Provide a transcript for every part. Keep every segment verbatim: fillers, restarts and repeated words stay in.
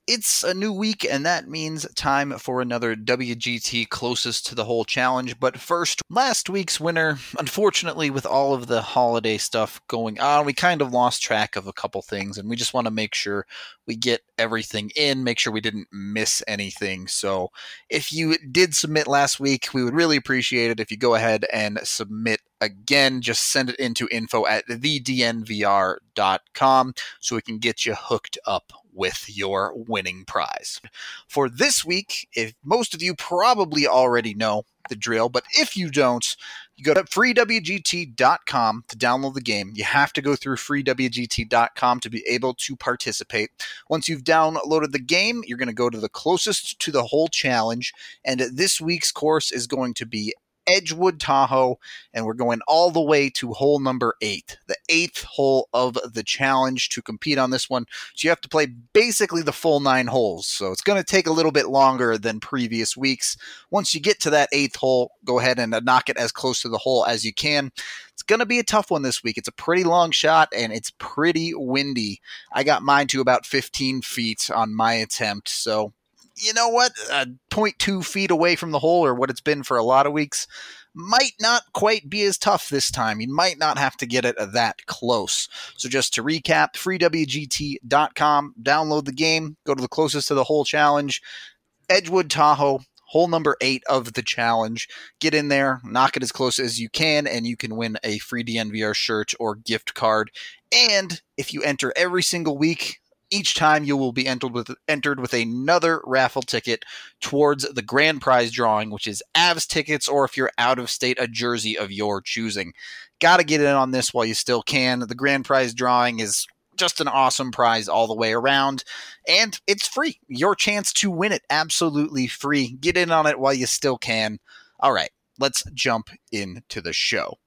It's a new week, and that means time for another W G T Closest to the Hole challenge. But first, last week's winner, unfortunately, with all of the holiday stuff going on, we kind of lost track of a couple things, and we just want to make sure we get everything in, make sure we didn't miss anything. So if you did submit last week, we would really appreciate it if you go ahead and submit again. Just send it into info at the d n v r dot com so we can get you hooked up with your winning prize. For this week, if most of you probably already know the drill, but if you don't, you go to free w g t dot com to download the game. You have to go through free w g t dot com to be able to participate. Once you've downloaded the game, you're going to go to the Closest to the Hole challenge, and this week's course is going to be Edgewood Tahoe, and we're going all the way to hole number eight, the eighth hole of the challenge to compete on this one. So you have to play basically the full nine holes. So it's going to take a little bit longer than previous weeks. Once you get to that eighth hole, go ahead and knock it as close to the hole as you can. It's going to be a tough one this week. It's a pretty long shot, and it's pretty windy. I got mine to about fifteen feet on my attempt, so you know what, uh, zero point two feet away from the hole, or what it's been for a lot of weeks, might not quite be as tough this time. You might not have to get it that close. So just to recap, free w g t dot com, download the game, go to the Closest to the Hole challenge, Edgewood Tahoe, hole number eight of the challenge. Get in there, knock it as close as you can, and you can win a free D N V R shirt or gift card. And if you enter every single week, each time you will be entered with entered with another raffle ticket towards the grand prize drawing, which is Avs tickets, or if you're out of state, a jersey of your choosing. Got to get in on this while you still can. The grand prize drawing is just an awesome prize all the way around, and it's free. Your chance to win it, absolutely free. Get in on it while you still can. All right, let's jump into the show.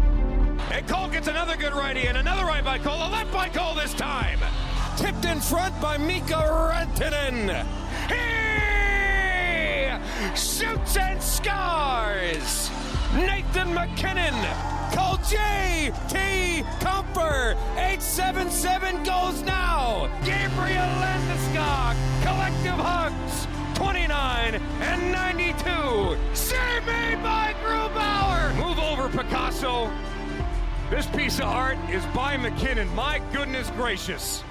And Cole gets another good righty, and another right by Cole, a left by Cole this time. Tipped in front by Mikko Rantanen. He shoots and scores. Nathan MacKinnon. Call J T Comfer. eight seven seven goes now. Gabriel Landeskog. Collective hugs. twenty-nine and ninety-two. Save me by Grubauer. Move over, Picasso. This piece of art is by MacKinnon. My goodness gracious.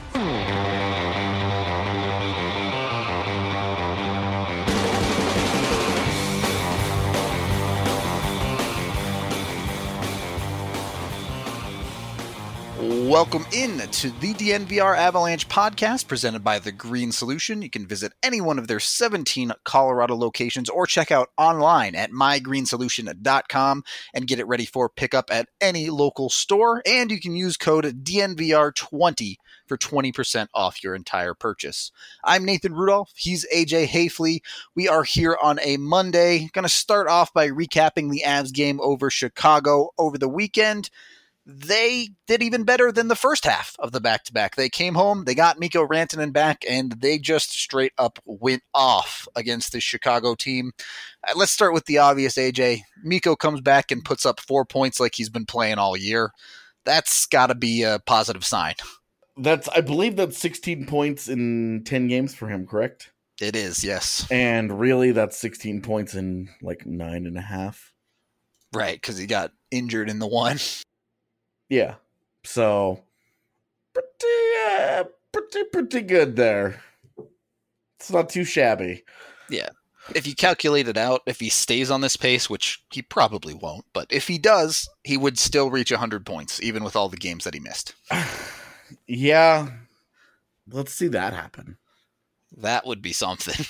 Welcome in to the D N V R Avalanche podcast presented by The Green Solution. You can visit any one of their seventeen Colorado locations or check out online at my green solution dot com and get it ready for pickup at any local store. And you can use code D N V R twenty for twenty percent off your entire purchase. I'm Nathan Rudolph. He's A J Hayfley. We are here on a Monday. Going to start off by recapping the Avs game over Chicago over the weekend. They did even better than the first half of the back-to-back. They came home, they got Mikko Rantanen back, and they just straight up went off against the Chicago team. Uh, let's start with the obvious, A J. Mikko comes back and puts up four points like he's been playing all year. That's got to be a positive sign. That's, I believe that's sixteen points in ten games for him, correct? It is, yes. And really, that's sixteen points in like nine and a half. Right, because he got injured in the one. Yeah, so pretty, uh, pretty, pretty good there. It's not too shabby. Yeah. If you calculate it out, if he stays on this pace, which he probably won't, but if he does, he would still reach one hundred points, even with all the games that he missed. Yeah, let's see that happen. That would be something.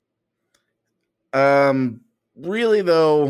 um, really, though,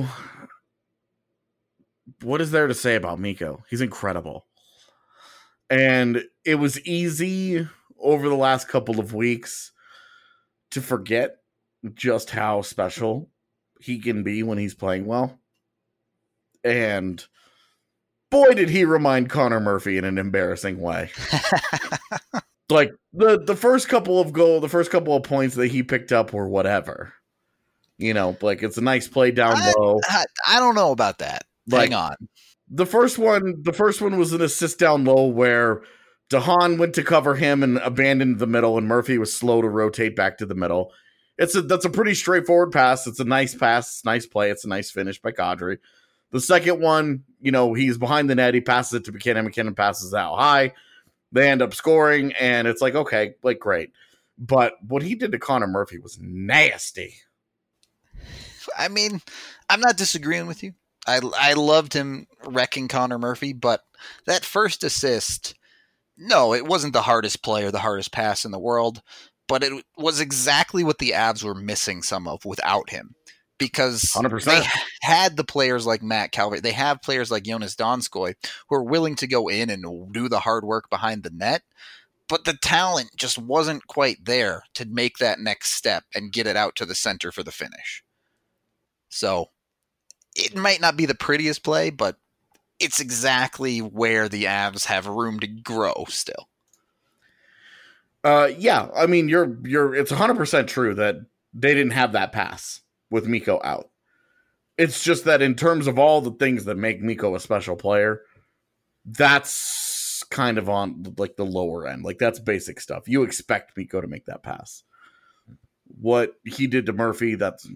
what is there to say about Mikko? He's incredible. And it was easy over the last couple of weeks to forget just how special he can be when he's playing well. And boy, did he remind Connor Murphy in an embarrassing way. Like the, the first couple of goal, the first couple of points that he picked up were whatever. You know, like it's a nice play down I, low. I, I don't know about that. Like, Hang on. The first one, the first one was an assist down low where DeHaan went to cover him and abandoned the middle, and Murphy was slow to rotate back to the middle. It's a that's a pretty straightforward pass. It's a nice pass, it's a nice play. It's a nice finish by Kadri. The second one, you know, he's behind the net. He passes it to McKinnon. McKinnon passes out high. They end up scoring, and it's like, okay, like, great. But what he did to Connor Murphy was nasty. I mean, I'm not disagreeing with you. I, I loved him wrecking Connor Murphy, but that first assist, no, it wasn't the hardest play or the hardest pass in the world, but it was exactly what the Avs were missing some of without him. Because one hundred percent. they had the players like Matt Calvert. They have players like Jonas Donskoy who are willing to go in and do the hard work behind the net. But the talent just wasn't quite there to make that next step and get it out to the center for the finish. So it might not be the prettiest play, but it's exactly where the Avs have room to grow still. Uh, yeah, I mean, you're you're. It's one hundred percent true that they didn't have that pass with Mikko out. It's just that in terms of all the things that make Mikko a special player, that's kind of on like the lower end. Like that's basic stuff. You expect Mikko to make that pass. What he did to Murphy, that's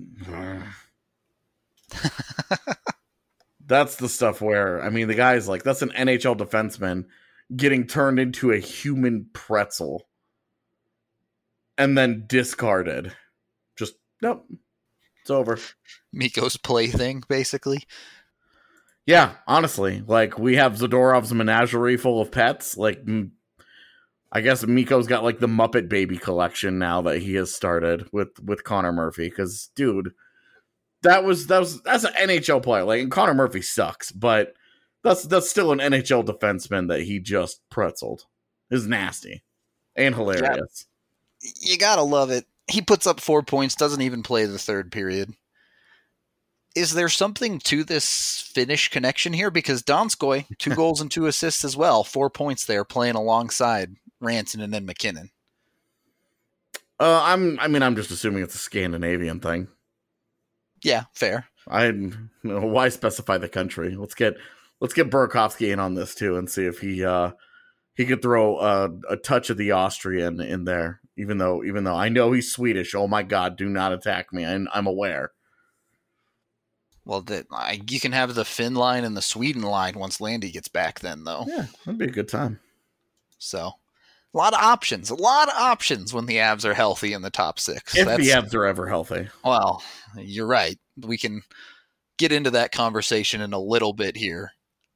that's the stuff where, I mean, the guy's like, that's an N H L defenseman getting turned into a human pretzel and then discarded. Just, nope. It's over. Mikko's plaything, basically. Yeah, honestly. Like, we have Zadorov's menagerie full of pets. Like, I guess Mikko's got, like, the Muppet Baby collection now that he has started with, with Connor Murphy. Because, dude, that was, that was, that's an N H L player. Like, and Connor Murphy sucks, but that's, that's still an N H L defenseman that he just pretzeled. It's nasty and hilarious. Yeah. You gotta love it. He puts up four points, doesn't even play the third period. Is there something to this Finnish connection here? Because Donskoy, two goals and two assists as well, four points there, playing alongside Rantanen and McKinnon. Uh, I'm. I mean, I'm just assuming it's a Scandinavian thing. Yeah, fair. I you know, why specify the country? Let's get let's get Burakovsky in on this too, and see if he uh, he could throw a, a touch of the Austrian in there. Even though, even though I know he's Swedish. Oh my God! Do not attack me. I'm, I'm aware. Well, that I, you can have the Finn line and the Sweden line once Landy gets back. Then, though, yeah, that'd be a good time. So, a lot of options. A lot of options when the Avs are healthy in the top six. If That's, the Avs are ever healthy. Well, you're right. We can get into that conversation in a little bit here.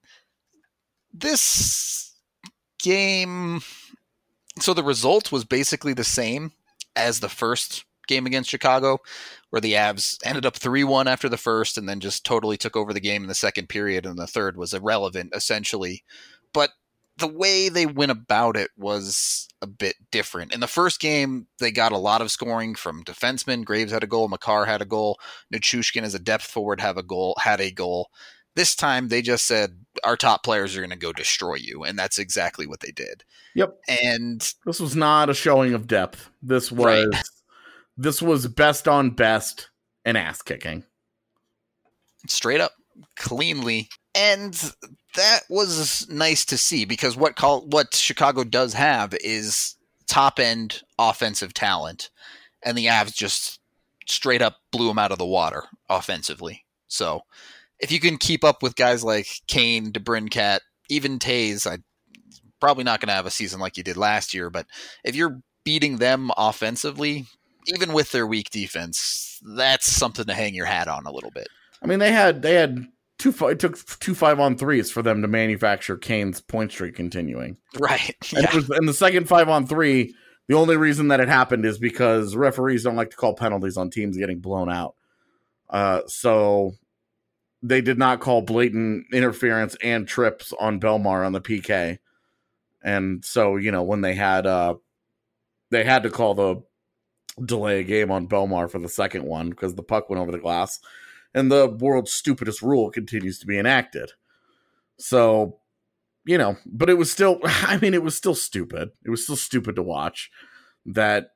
This game. So the result was basically the same as the first game against Chicago, where the Avs ended up three one after the first and then just totally took over the game in the second period, and the third was irrelevant, essentially. But the way they went about it was a bit different. In the first game, they got a lot of scoring from defensemen. Graves had a goal, Makar had a goal, Nichushkin as a depth forward have a goal, had a goal. This time, they just said, our top players are going to go destroy you, and that's exactly what they did. Yep. And this was not a showing of depth. This was right. This was best on best and ass kicking. Straight up, cleanly. And that was nice to see, because what call, what Chicago does have is top-end offensive talent, and the Avs just straight up blew them out of the water offensively. So if you can keep up with guys like Kane, DeBrincat, even Taze, I'm probably not going to have a season like you did last year, but if you're beating them offensively, even with their weak defense, that's something to hang your hat on a little bit. I mean, they had they had two. It took two five on threes for them to manufacture Kane's point streak continuing. Right. And, yeah. it was, and the second five on three, the only reason that it happened is because referees don't like to call penalties on teams getting blown out. Uh, so they did not call blatant interference and trips on Belmar on the P K. And so, you know, when they had uh, they had to call the delay a game on Belmar for the second one because the puck went over the glass, and the world's stupidest rule continues to be enacted. So, you know, but it was still, I mean, it was still stupid. It was still stupid to watch that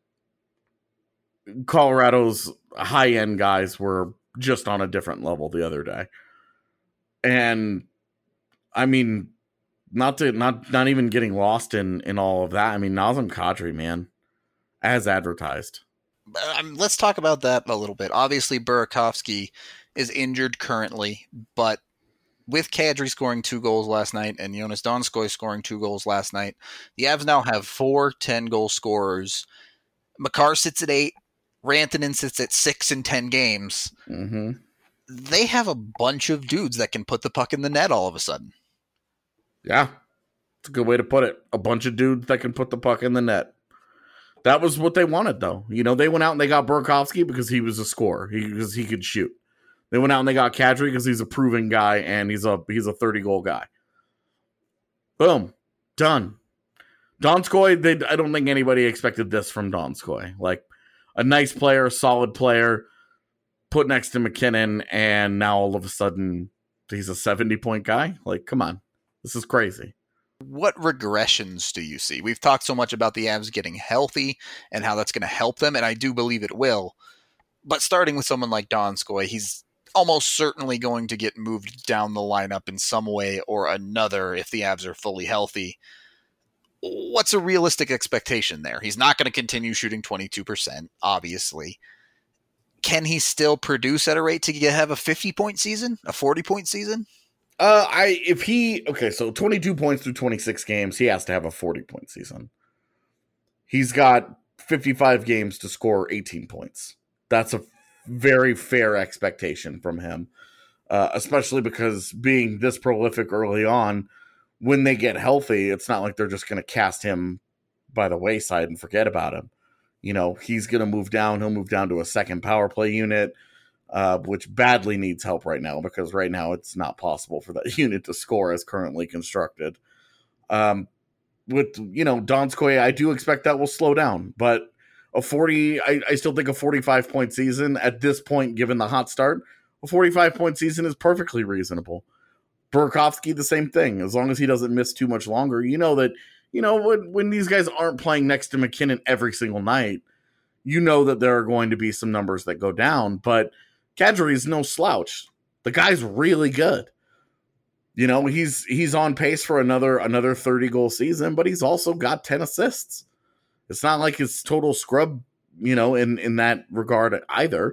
Colorado's high-end guys were just on a different level the other day. And, I mean, not to not not even getting lost in in all of that. I mean, Nazem Kadri, man, as advertised. Um, let's talk about that a little bit. Obviously, Burakovsky is injured currently, but with Kadri scoring two goals last night and Jonas Donskoy scoring two goals last night, the Avs now have four ten-goal scorers. Makar sits at eight. Rantanen sits at six in ten games. Mm-hmm. They have a bunch of dudes that can put the puck in the net all of a sudden. Yeah, it's a good way to put it. A bunch of dudes that can put the puck in the net. That was what they wanted, though. You know, they went out and they got Burakovsky because he was a scorer, he, because he could shoot. They went out and they got Kadri because he's a proven guy and he's a he's a thirty-goal guy. Boom. Done. Donskoy, they, I don't think anybody expected this from Donskoy. Like, a nice player, solid player, put next to McKinnon, and now all of a sudden he's a seventy-point guy? Like, come on. This is crazy. What regressions do you see? We've talked so much about the Avs getting healthy and how that's going to help them, and I do believe it will. But starting with someone like Donskoy, he's almost certainly going to get moved down the lineup in some way or another if the Avs are fully healthy. What's a realistic expectation there? He's not going to continue shooting twenty-two percent, obviously. Can he still produce at a rate to get, have a fifty-point season, a forty-point season? Uh, I if he okay, so twenty-two points through twenty-six games, he has to have a forty-point season. He's got fifty-five games to score eighteen points. That's a very fair expectation from him, uh, especially because being this prolific early on, when they get healthy, it's not like they're just going to cast him by the wayside and forget about him. You know, he's going to move down. He'll move down to a second power play unit, uh, which badly needs help right now because right now it's not possible for that unit to score as currently constructed. Um, with, you know, Donskoy, I do expect that will slow down, but a forty, I, I still think a forty-five point season at this point, given the hot start, a forty-five point season is perfectly reasonable. Burakovsky, the same thing. As long as he doesn't miss too much longer, you know that, you know, when, when these guys aren't playing next to McKinnon every single night, you know that there are going to be some numbers that go down, but Kadri is no slouch. The guy's really good. You know, he's he's on pace for another another thirty goal season, but he's also got ten assists. It's not like it's total scrub, you know, in, in that regard either.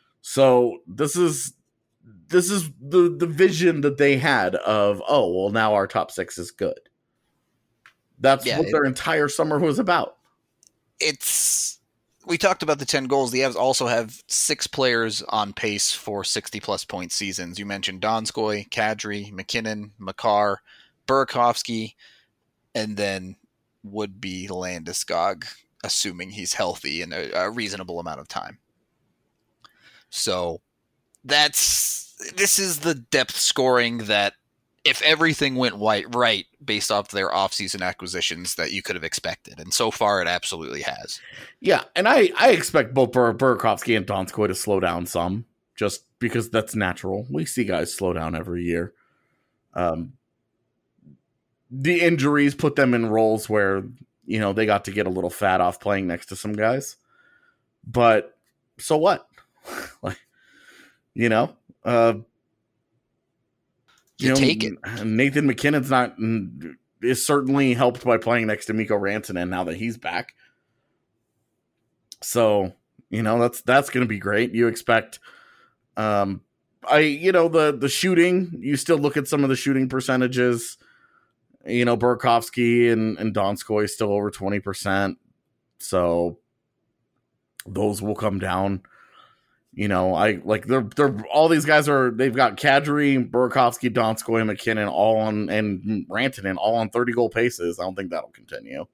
So this is this is the, the vision that they had of, oh, well, now our top six is good. That's yeah, what it, their entire summer was about. It's we talked about the ten goals. The Avs also have six players on pace for sixty-plus point seasons. You mentioned Donskoy, Kadri, McKinnon, Makar, Burakovsky, and then would be Landeskog, assuming he's healthy in a, a reasonable amount of time. So that's this is the depth scoring that, if everything went right, right based off their offseason acquisitions, that you could have expected. And so far, it absolutely has. Yeah, and I, I expect both Bur- Burakovsky and Donskoy to slow down some, just because that's natural. We see guys slow down every year. Um, the injuries put them in roles where, you know, they got to get a little fat off playing next to some guys. But so what? Like, you know, uh, you, you know, take it. Nathan McKinnon's not is certainly helped by playing next to Mikko Rantanen now that he's back. So, you know, that's that's going to be great. You expect, um, I you know the the shooting. You still look at some of the shooting percentages. You know, Burakovsky and, and Donskoy still over twenty percent. So those will come down. You know, I like they're they're all these guys are they've got Kadri, Burakovsky, Donskoy, McKinnon all on and Rantanen all on thirty goal paces. I don't think that'll continue.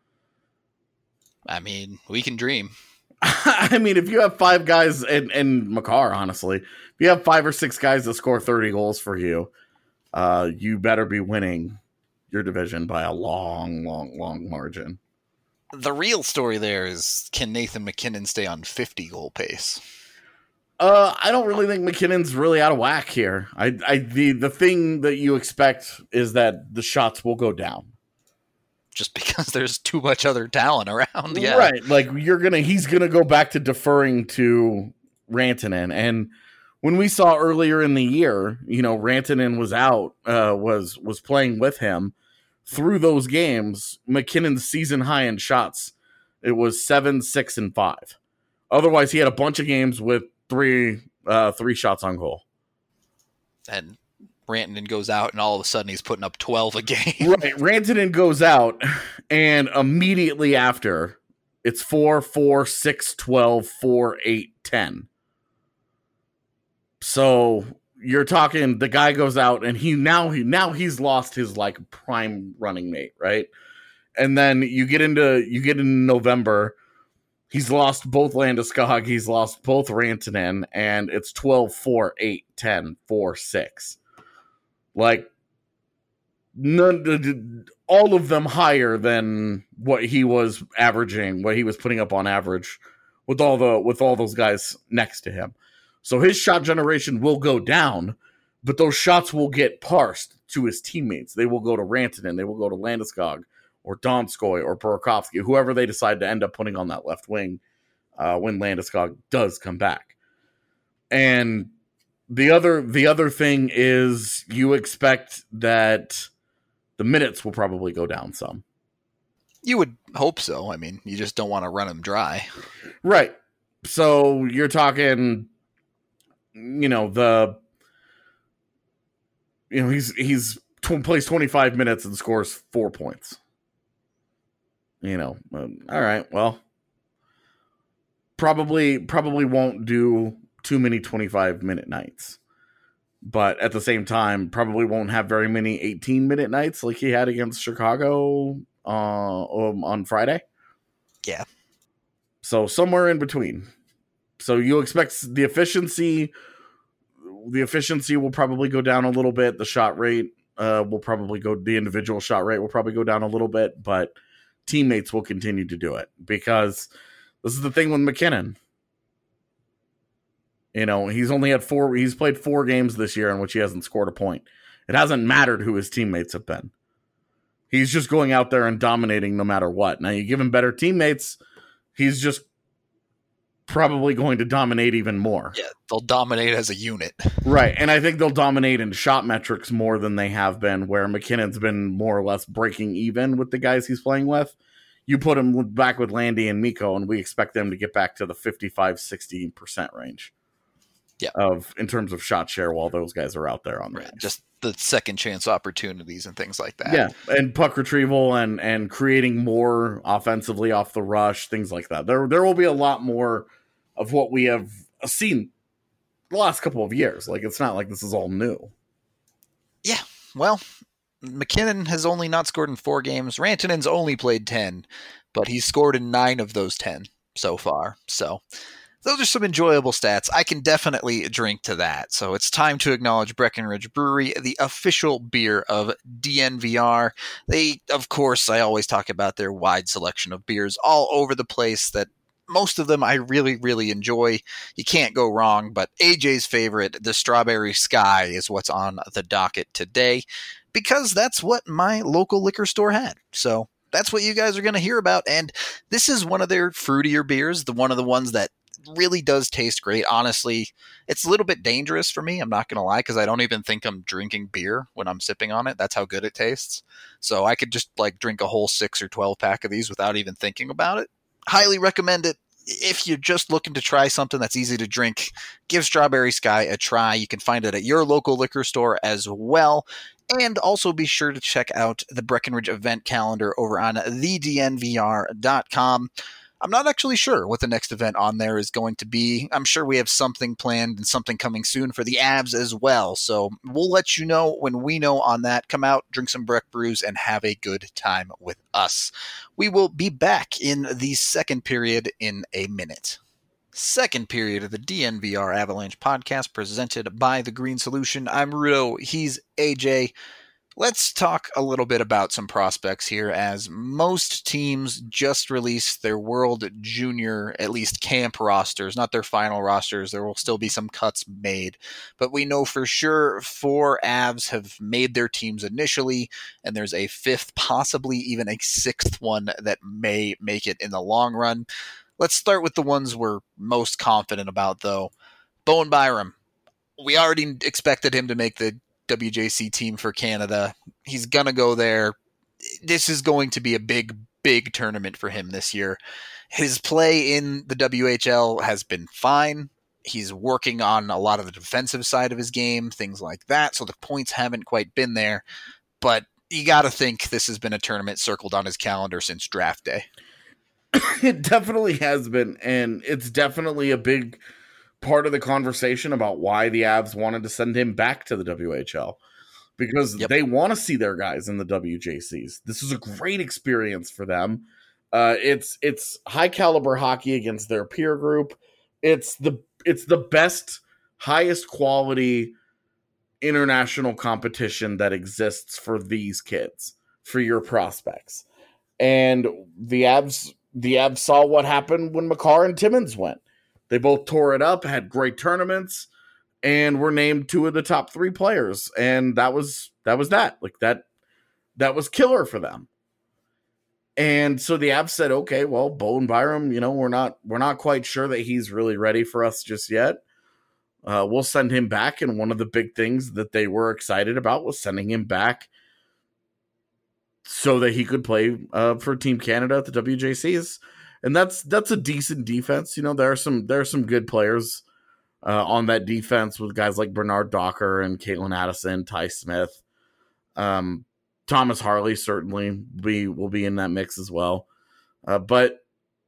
I mean, we can dream. I mean, if you have five guys and and Makar, honestly, if you have five or six guys that score thirty goals for you, uh, you better be winning your division by a long, long, long margin. The real story there is, can Nathan McKinnon stay on fifty goal pace? Uh, I don't really think McKinnon's really out of whack here. I, I, the the thing that you expect is that the shots will go down, just because there's too much other talent around. Yeah, right. Like you're gonna, he's gonna go back to deferring to Rantanen, and when we saw earlier in the year, you know, Rantanen was out, uh, was was playing with him. through those games, McKinnon's season high in shots, it was seven, six, and five. Otherwise, he had a bunch of games with three uh, three shots on goal. And Rantanen goes out, and all of a sudden he's putting up twelve a game. Right, Rantanen goes out, and immediately after, it's four, four, six, twelve, four, eight, ten. So you're talking the guy goes out, and he now he now he's lost his like prime running mate, right? And then you get into you get into November. He's lost both Landeskog, he's lost both Rantanen, and it's twelve, four, eight, ten, four, six. Like, none, all of them higher than what he was averaging, what he was putting up on average with all the with all those guys next to him. So his shot generation will go down, but those shots will get parsed to his teammates. They will go to Rantanen, they will go to Landeskog, or Donskoy, or Burakovsky, whoever they decide to end up putting on that left wing uh, when Landeskog does come back. And the other the other thing is you expect that the minutes will probably go down some. You would hope so. I mean, you just don't want to run him dry. Right. So you're talking, you know, the, you know, he's, he's tw- plays twenty-five minutes and scores four points. You know, um, all right, well, probably, probably won't do too many twenty-five minute nights, but at the same time, probably won't have very many eighteen minute nights like he had against Chicago uh, um, on Friday. Yeah. So somewhere in between. So you expect the efficiency, the efficiency will probably go down a little bit. The shot rate uh, will probably go, the individual shot rate will probably go down a little bit, but teammates will continue to do it because this is the thing with McKinnon. You know, he's only had four, he's played four games this year in which he hasn't scored a point. It hasn't mattered who his teammates have been. He's just going out there and dominating no matter what. Now, you give him better teammates, he's just probably going to dominate even more. Yeah, they'll dominate as a unit. Right, and I think they'll dominate in shot metrics more than they have been, where McKinnon's been more or less breaking even with the guys he's playing with. You put him back with Landy and Mikko, and we expect them to get back to the fifty-five, sixty percent range. Yeah, of in terms of shot share while those guys are out there on the right. ice. Just the second chance opportunities and things like that. Yeah, and puck retrieval and and creating more offensively off the rush, things like that. There there will be a lot more of what we have seen the last couple of years. Like, it's not like this is all new. Yeah, well, McKinnon has only not scored in four games. Rantanen's only played ten, but he's scored in nine of those ten so far. So those are some enjoyable stats. I can definitely drink to that. So it's time to acknowledge Breckenridge Brewery, the official beer of D N V R. They, of course, I always talk about their wide selection of beers all over the place that most of them I really, really enjoy. You can't go wrong, but A J's favorite, the Strawberry Sky, is what's on the docket today because that's what my local liquor store had. So that's what you guys are going to hear about. And this is one of their fruitier beers, the one of the ones that really does taste great. Honestly, it's a little bit dangerous for me. I'm not going to lie, because I don't even think I'm drinking beer when I'm sipping on it. That's how good it tastes. So I could just like drink a whole six or twelve pack of these without even thinking about it. Highly recommend it. If you're just looking to try something that's easy to drink, give Strawberry Sky a try. You can find it at your local liquor store as well. And also be sure to check out the Breckenridge event calendar over on the D N V R dot com. I'm not actually sure what the next event on there is going to be. I'm sure we have something planned and something coming soon for the Avs as well. So we'll let you know when we know on that. Come out, drink some Breck brews, and have a good time with us. We will be back in the second period in a minute. Second period of the D N V R Avalanche podcast presented by The Green Solution. I'm Rudo. He's A J. Let's talk a little bit about some prospects here, as most teams just released their World Junior, at least camp rosters, not their final rosters. There will still be some cuts made, but we know for sure four Avs have made their teams initially, and there's a fifth, possibly even a sixth one that may make it in the long run. Let's start with the ones we're most confident about, though. Bowen Byram. We already expected him to make the W J C team for Canada. He's going to go there. this is going to be a big, big tournament for him this year. His play in the W H L has been fine. He's working on a lot of the defensive side of his game, things like that. So the points haven't quite been there, but you got to think this has been a tournament circled on his calendar since draft day. It definitely has been, and it's definitely a big part of the conversation about why the Avs wanted to send him back to the W H L, because yep. they want to see their guys in the W J Cs. This is a great experience for them. Uh, it's it's high caliber hockey against their peer group. It's the it's the best, highest quality international competition that exists for these kids, for your prospects. And the Avs the Avs saw what happened when Makar and Timmins went. They both tore it up, had great tournaments, and were named two of the top three players. And that was that was that. Like that that was killer for them. And so the Avs said, okay, well, Bowen Byram, you know, we're not we're not quite sure that he's really ready for us just yet. Uh, we'll send him back. And one of the big things that they were excited about was sending him back so that he could play uh, for Team Canada at the W J Cs. And that's that's a decent defense. You know, there are some there are some good players uh, on that defense with guys like Bernard Docker and Caitlin Addison, Ty Smith. Um, Thomas Harley certainly be, will be in that mix as well. Uh, but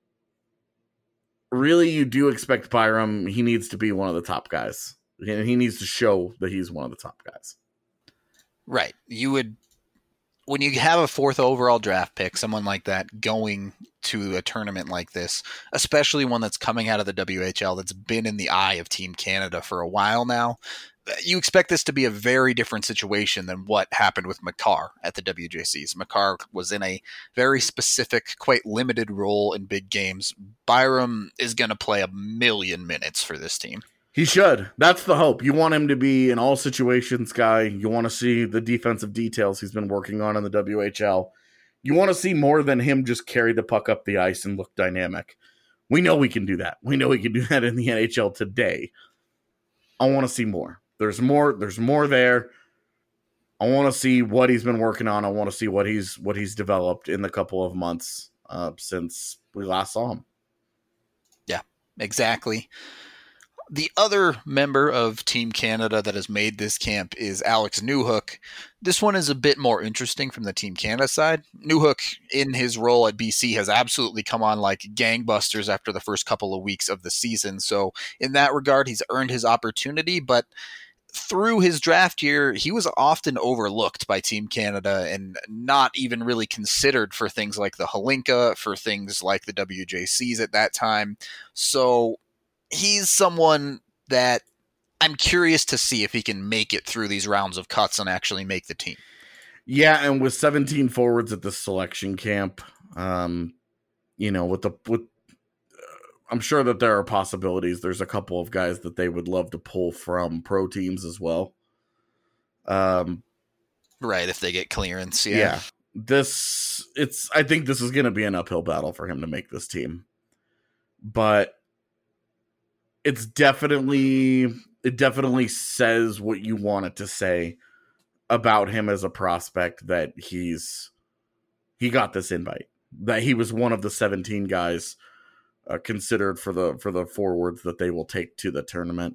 really, you do expect Byram. He needs to be one of the top guys. And he needs to show that he's one of the top guys. Right. You would, when you have a fourth overall draft pick, someone like that going to a tournament like this, especially one that's coming out of the W H L that's been in the eye of Team Canada for a while now, you expect this to be a very different situation than what happened with Makar at the W J Cs. Makar was in a very specific, quite limited role in big games. Byram is going to play a million minutes for this team. He should. That's the hope. You want him to be an all situations guy. You want to see the defensive details he's been working on in the W H L. You want to see more than him just carry the puck up the ice and look dynamic. We know we can do that. We know we can do that in the N H L today. I want to see more. There's more. There's more there. I want to see what he's been working on. I want to see what he's what he's developed in the couple of months uh, since we last saw him. Yeah, exactly. The other member of Team Canada that has made this camp is Alex Newhook. This one is a bit more interesting from the Team Canada side. Newhook, in his role at B C, has absolutely come on like gangbusters after the first couple of weeks of the season. So in that regard, he's earned his opportunity, but through his draft year, he was often overlooked by Team Canada and not even really considered for things like the Hlinka, for things like the W J Cs at that time. So he's someone that I'm curious to see if he can make it through these rounds of cuts and actually make the team. Yeah, and with seventeen forwards at the selection camp, um, you know, with the with, uh, I'm sure that there are possibilities. There's a couple of guys that they would love to pull from pro teams as well. Um, right, if they get clearance, yeah. Yeah, this it's. I think this is going to be an uphill battle for him to make this team, but it's definitely it definitely says what you want it to say about him as a prospect, that he's he got this invite, that he was one of the seventeen guys uh, considered for the for the forwards that they will take to the tournament.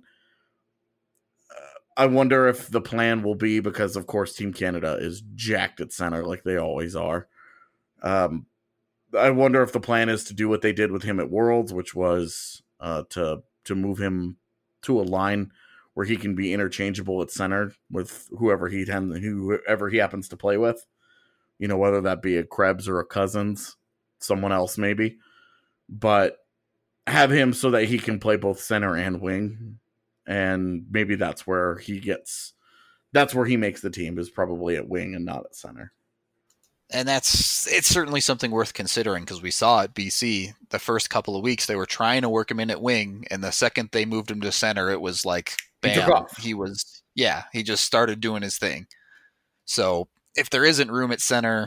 Uh, I wonder if the plan will be, because of course Team Canada is jacked at center like they always are. Um, I wonder if the plan is to do what they did with him at Worlds, which was uh, to to move him to a line where he can be interchangeable at center with whoever he whoever he happens to play with. You know, whether that be a Krebs or a Cousins, someone else maybe. But have him so that he can play both center and wing. And maybe that's where he gets that's where he makes the team, is probably at wing and not at center. And that's it's certainly something worth considering, because we saw at B C the first couple of weeks they were trying to work him in at wing, and the second they moved him to center, it was like bam, he, he was yeah, he just started doing his thing. So if there isn't room at center,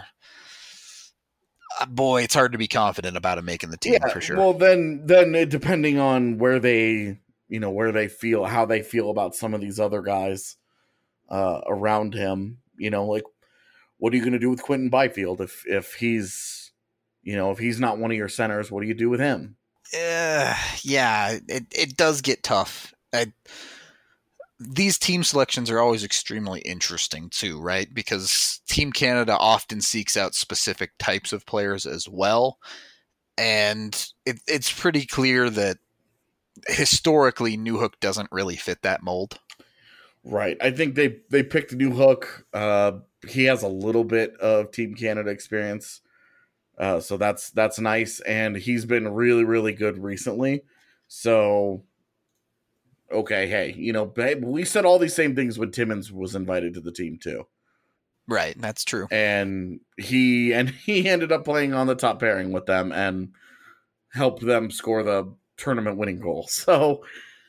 uh, boy, it's hard to be confident about him making the team yeah, for sure. Well, then then depending on where they you know where they feel how they feel about some of these other guys uh, around him, you know, like. what are you going to do with Quentin Byfield if if he's, you know, if he's not one of your centers? What do you do with him? Uh, yeah, it it does get tough. I, these team selections are always extremely interesting too, right? Because Team Canada often seeks out specific types of players as well. And it, it's pretty clear that historically Newhook doesn't really fit that mold. Right. I think they, they picked Newhook. Uh, he has a little bit of Team Canada experience. Uh, so that's that's nice. And he's been really, really good recently. So, okay, hey, you know, we said all these same things when Timmins was invited to the team too. Right, that's true. And he and he ended up playing on the top pairing with them and helped them score the tournament winning goal. So,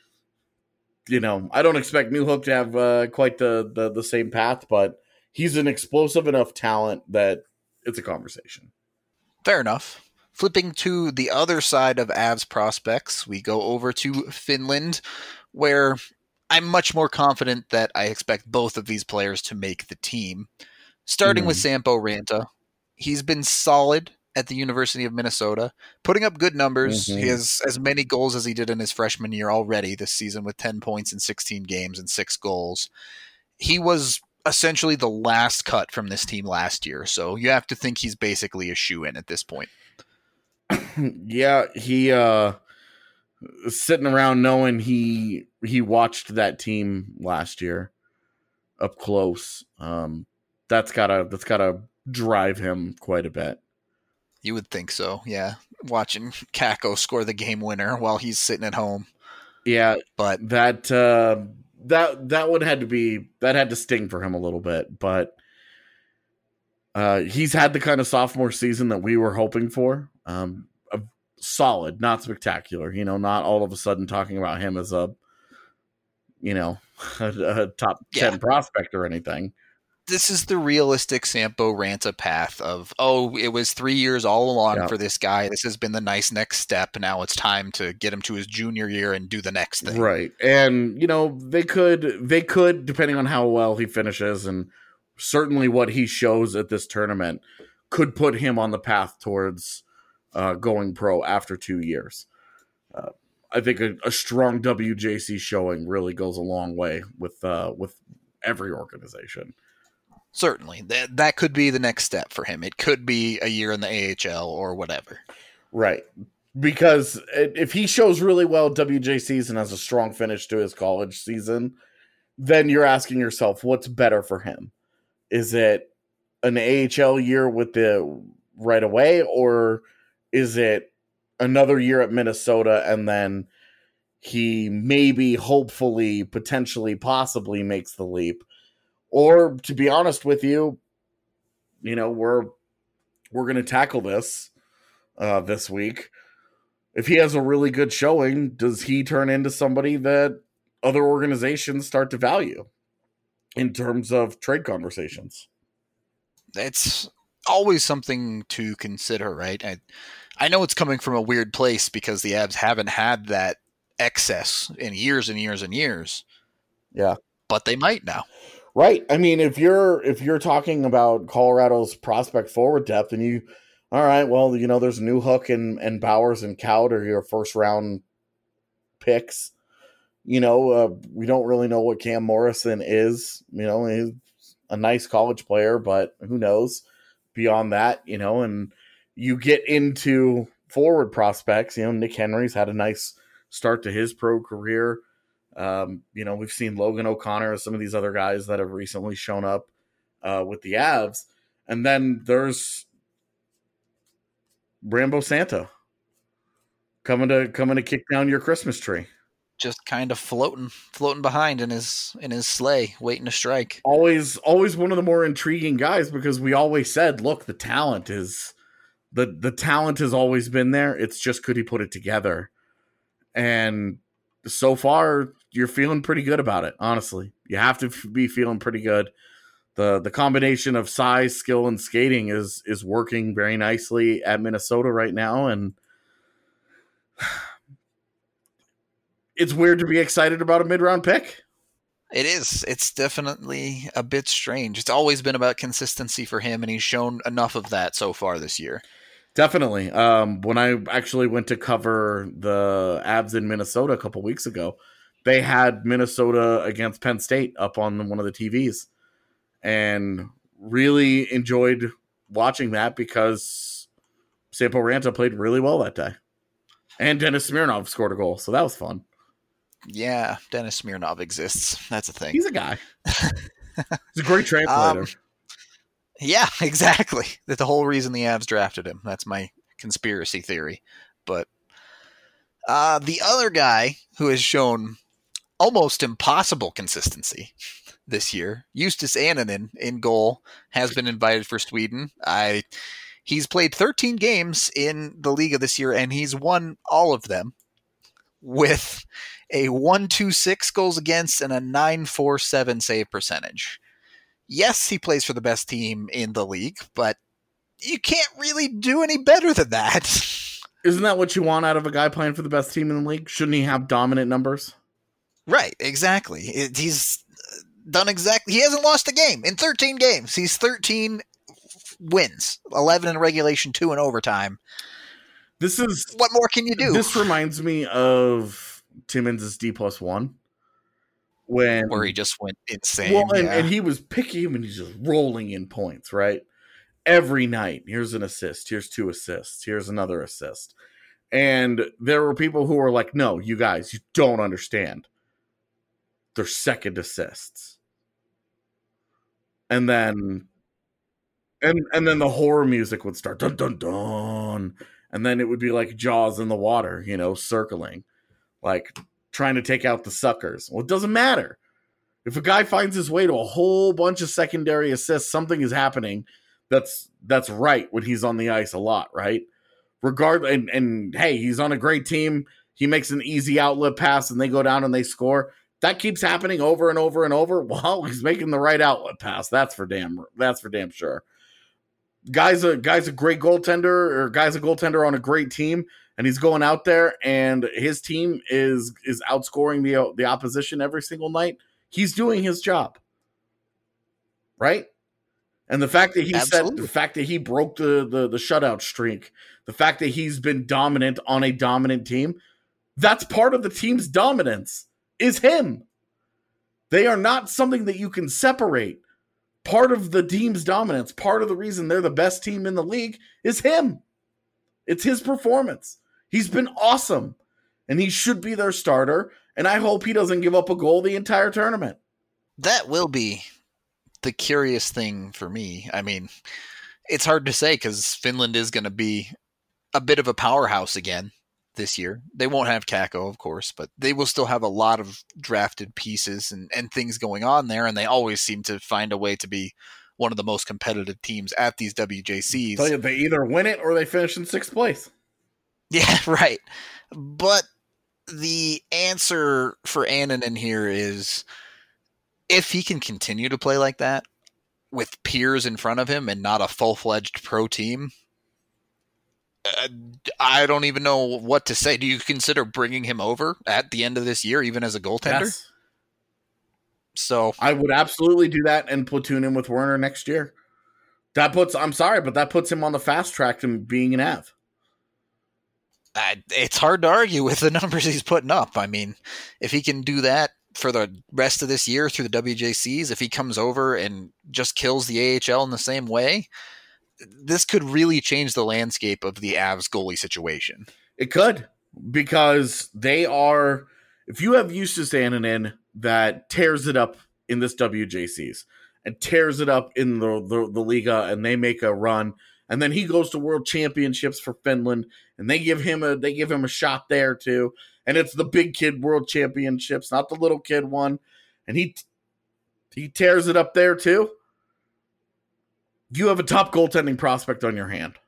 you know, I don't expect Newhook to have uh, quite the, the the same path, but he's an explosive enough talent that it's a conversation. Fair enough. Flipping to the other side of Avs prospects, we go over to Finland, where I'm much more confident that I expect both of these players to make the team. Starting mm-hmm. with Sampo Ranta, he's been solid at the University of Minnesota, putting up good numbers. Mm-hmm. He has as many goals as he did in his freshman year already this season with ten points in sixteen games and six goals. He was essentially the last cut from this team last year, so you have to think he's basically a shoo-in at this point. Yeah, he uh, sitting around knowing he he watched that team last year up close. Um, that's gotta that's gotta drive him quite a bit. You would think so, yeah. Watching Kakko score the game winner while he's sitting at home. Yeah, but that uh, that that would had to be that had to sting for him a little bit, but uh, he's had the kind of sophomore season that we were hoping for. Um, a solid, not spectacular. You know, not all of a sudden talking about him as a, you know, a, a top yeah. ten prospect or anything. This is the realistic Sampo Ranta path of, oh, it was three years all along yeah. for this guy. This has been the nice next step. Now it's time to get him to his junior year and do the next thing. Right. And, you know, they could, they could, depending on how well he finishes and certainly what he shows at this tournament, could put him on the path towards uh, going pro after two years. Uh, I think a, a strong W J C showing really goes a long way with uh, with every organization. Certainly. That that could be the next step for him. It could be a year in the A H L or whatever. Right. Because if he shows really well at W J Cs and has a strong finish to his college season, then you're asking yourself, what's better for him? Is it an A H L year with the right away, or is it another year at Minnesota and then he maybe, hopefully, potentially, possibly makes the leap? Or, to be honest with you, you know, we're we're going to tackle this uh, this week. If he has a really good showing, does he turn into somebody that other organizations start to value in terms of trade conversations? It's always something to consider, right? I, I know it's coming from a weird place because the Avs haven't had that excess in years and years and years. Yeah. But they might now. Right. I mean, if you're if you're talking about Colorado's prospect forward depth and you, all right, well, you know, there's Newhook and, and Bowers and Kaut are your first round picks. You know, uh, we don't really know what Cam Morrison is. You know, he's a nice college player, but who knows beyond that, you know, and you get into forward prospects. You know, Nick Henry's had a nice start to his pro career. Um, you know, we've seen Logan O'Connor, some of these other guys that have recently shown up uh, with the Avs. And then there's Rambo Santa coming to coming to kick down your Christmas tree. Just kind of floating, floating behind in his in his sleigh, waiting to strike. Always, always one of the more intriguing guys because we always said, look, the talent is the the talent has always been there. It's just could he put it together? And so far, you're feeling pretty good about it. Honestly, you have to f- be feeling pretty good. the The combination of size, skill, and skating is is working very nicely at Minnesota right now, and it's weird to be excited about a mid round pick. It is. It's definitely a bit strange. It's always been about consistency for him, and he's shown enough of that so far this year. Definitely. Um, when I actually went to cover the Avs in Minnesota a couple weeks ago, they had Minnesota against Penn State up on one of the T Vs, and really enjoyed watching that because Sampo Ranta played really well that day. And Dennis Smirnov scored a goal, so that was fun. Yeah, Dennis Smirnov exists. That's a thing. He's a guy. He's a great translator. Um, yeah, exactly. That's the whole reason the Avs drafted him. That's my conspiracy theory. But uh, the other guy who has shown almost impossible consistency this year, Justus Annunen in goal, has been invited for Sweden. I he's played thirteen games in the Liga this year, and he's won all of them with a one point two six goals against and a nine point four seven save percentage. Yes, he plays for the best team in the league, but you can't really do any better than that. Isn't that what you want out of a guy playing for the best team in the league? Shouldn't he have dominant numbers? Right, exactly. It, he's done exactly. He hasn't lost a game in thirteen games. He's thirteen wins, eleven in regulation, two in overtime. This is what more can you do? This reminds me of Timmins' D plus one, when where he just went insane. Well, and, yeah. and he was picky and he's just rolling in points, right? Every night, here's an assist, here's two assists, here's another assist. And there were people who were like, no, you guys, you don't understand. They're second assists. And then and and then the horror music would start, dun dun dun. And then it would be like Jaws in the water, you know, circling, like trying to take out the suckers. Well, it doesn't matter. If a guy finds his way to a whole bunch of secondary assists, something is happening that's that's right when he's on the ice a lot, right? Regardless, and, and hey, he's on a great team. He makes an easy outlet pass and they go down and they score. That keeps happening over and over and over. Well, he's making the right outlet pass. That's for damn that's for damn sure. Guy's a guy's a great goaltender, or guy's a goaltender on a great team, and he's going out there and his team is is outscoring the the opposition every single night. He's doing his job, right? And the fact that he Absolutely. said the fact that he broke the, the the shutout streak, the fact that he's been dominant on a dominant team, that's part of the team's dominance. Is him. They are not something that you can separate. Part of the team's dominance, part of the reason they're the best team in the league is him. It's his performance. He's been awesome, and he should be their starter, and I hope he doesn't give up a goal the entire tournament. That will be the curious thing for me. I mean, it's hard to say because Finland is going to be a bit of a powerhouse again this year. They won't have Kakko, of course, but they will still have a lot of drafted pieces and, and things going on there, and they always seem to find a way to be one of the most competitive teams at these W J Cs. Tell you, they either win it or they finish in sixth place. Yeah, right. But the answer for Annunen here is if he can continue to play like that with peers in front of him and not a full-fledged pro team, Uh, I don't even know what to say. Do you consider bringing him over at the end of this year, even as a goaltender? Yes. So I would absolutely do that and platoon him with Werner next year. That puts, I'm sorry, but that puts him on the fast track to being an Av. Uh, it's hard to argue with the numbers he's putting up. I mean, if he can do that for the rest of this year through the W J Cs, if he comes over and just kills the A H L in the same way, this could really change the landscape of the Avs goalie situation. It could, because they are, if you have Justus Annunen that tears it up in this W J Cs and tears it up in the, the, the Liga, and they make a run, and then he goes to World Championships for Finland, and they give him a they give him a shot there too, and it's the big kid World Championships, not the little kid one, and he he tears it up there too. You have a top goaltending prospect on your hand.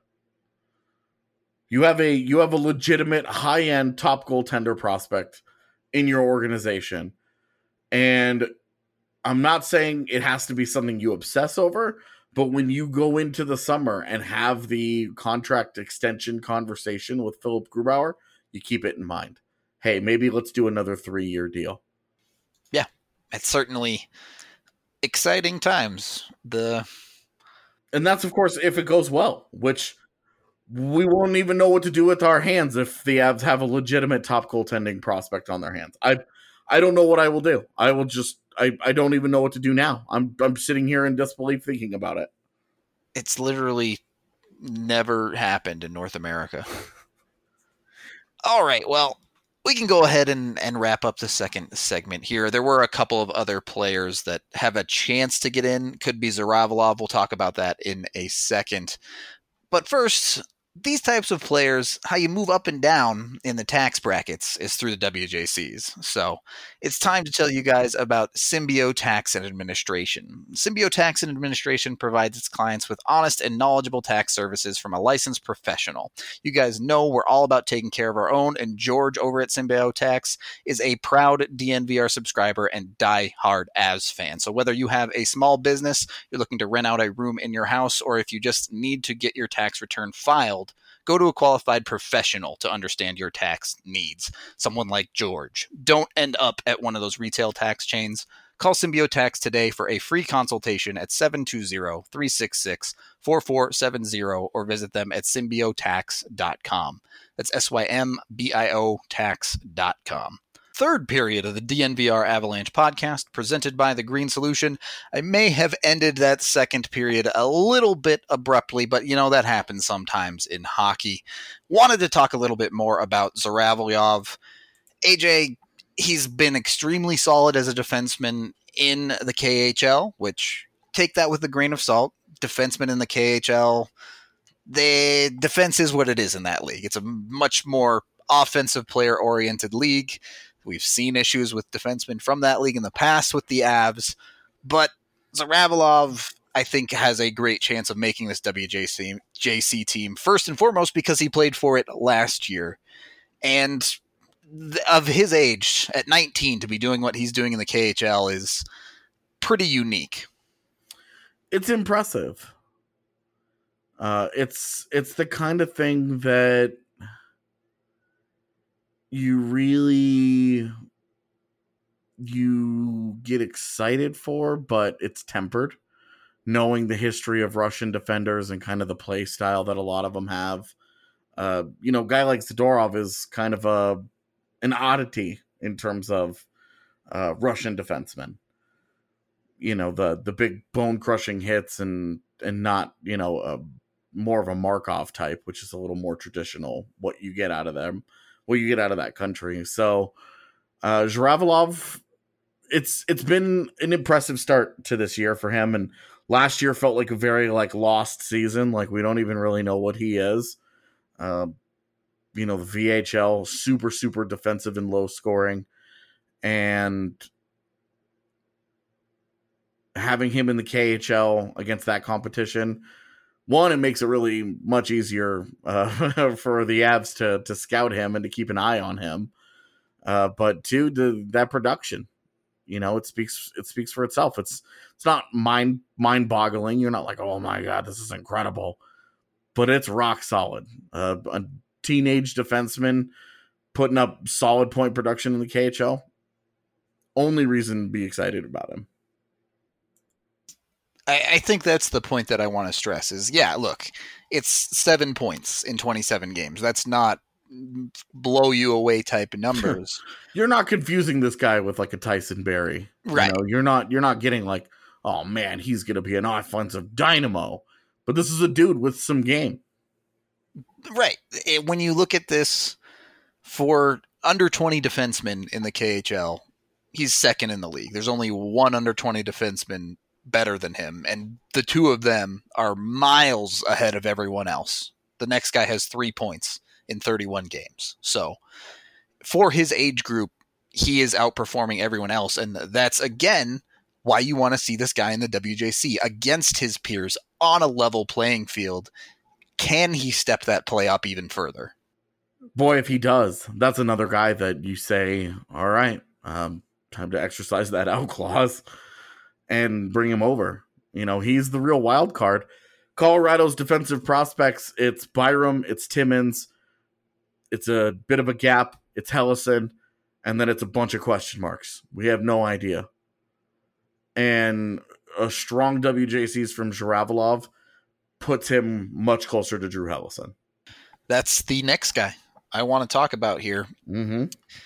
You have a you have a legitimate high-end top goaltender prospect in your organization. And I'm not saying it has to be something you obsess over, but when you go into the summer and have the contract extension conversation with Philip Grubauer, you keep it in mind. Hey, maybe let's do another three-year deal. Yeah, it's certainly exciting times. The And that's, of course, if it goes well, which we won't even know what to do with our hands if the Avs have a legitimate top goaltending prospect on their hands. I I don't know what I will do. I will just I, I don't even know what to do now. I'm I'm sitting here in disbelief thinking about it. It's literally never happened in North America. All right, well, we can go ahead and, and wrap up the second segment here. There were a couple of other players that have a chance to get in. Could be Zhuravlyov. We'll talk about that in a second. But first, these types of players, how you move up and down in the tax brackets is through the W J Cs. So it's time to tell you guys about Symbio Tax and Administration. Symbio Tax and Administration provides its clients with honest and knowledgeable tax services from a licensed professional. You guys know we're all about taking care of our own, and George over at Symbio Tax is a proud D N V R subscriber and die-hard Avs fan. So whether you have a small business, you're looking to rent out a room in your house, or if you just need to get your tax return filed, go to a qualified professional to understand your tax needs. Someone like George. Don't end up at one of those retail tax chains. Call Symbio Tax today for a free consultation at seven two zero, three six six, four four seven zero or visit them at symbio tax dot com. That's S Y M B I O tax dot com. Third period of the D N V R Avalanche podcast presented by The Green Solution. I may have ended that second period a little bit abruptly, but you know, that happens sometimes in hockey. Wanted to talk a little bit more about Zhuravlyov. A J, he's been extremely solid as a defenseman in the K H L, which take that with a grain of salt. Defensemen in the K H L, the defense is what it is in that league. It's a much more offensive player-oriented league. We've seen issues with defensemen from that league in the past with the Avs, but Zhuravlyov, I think, has a great chance of making this W J C, J C team, first and foremost because he played for it last year. And th- of his age, at nineteen, to be doing what he's doing in the K H L is pretty unique. It's impressive. Uh, it's it's the kind of thing that you really you get excited for, but it's tempered, knowing the history of Russian defenders and kind of the play style that a lot of them have. Uh, you know, a guy like Zadorov is kind of a an oddity in terms of uh, Russian defensemen. You know, the the big bone crushing hits and and not, you know, a, more of a Markov type, which is a little more traditional, what you get out of them. What you get out of that country. So uh Zhuravlyov, it's it's been an impressive start to this year for him, and last year felt like a very like lost season. Like we don't even really know what he is. Uh, you know, the V H L, super super defensive and low scoring, and having him in the K H L against that competition, one, it makes it really much easier uh, for the Avs to to scout him and to keep an eye on him. Uh, but two, the, that production, you know, it speaks it speaks for itself. It's it's not mind mind boggling. You're not like, oh my god, this is incredible, but it's rock solid. Uh, a teenage defenseman putting up solid point production in the K H L. Only reason to be excited about him. I think that's the point that I want to stress is, yeah, look, it's seven points in twenty-seven games. That's not blow you away type of numbers. You're not confusing this guy with like a Tyson Barrie. Right. You know, you're not, you're not getting like, oh man, he's going to be an offensive dynamo, but this is a dude with some game. Right. It, when you look at this for under twenty defensemen in the K H L, he's second in the league. There's only one under twenty defenseman better than him, and the two of them are miles ahead of everyone else. The next guy has three points in thirty-one games. So for his age group, he is outperforming everyone else, and that's again why you want to see this guy in the W J C against his peers on a level playing field. Can he step that play up even further? Boy, if he does, that's another guy that you say, all right, um, time to exercise that out clause and bring him over. You know, he's the real wild card. Colorado's defensive prospects, it's Byram, it's Timmins, it's a bit of a gap, it's Hellison, and then it's a bunch of question marks. We have no idea. and a strong W J Cs from Zhiravalov puts him much closer to Drew Hellison. That's the next guy I want to talk about here. Mm-hmm.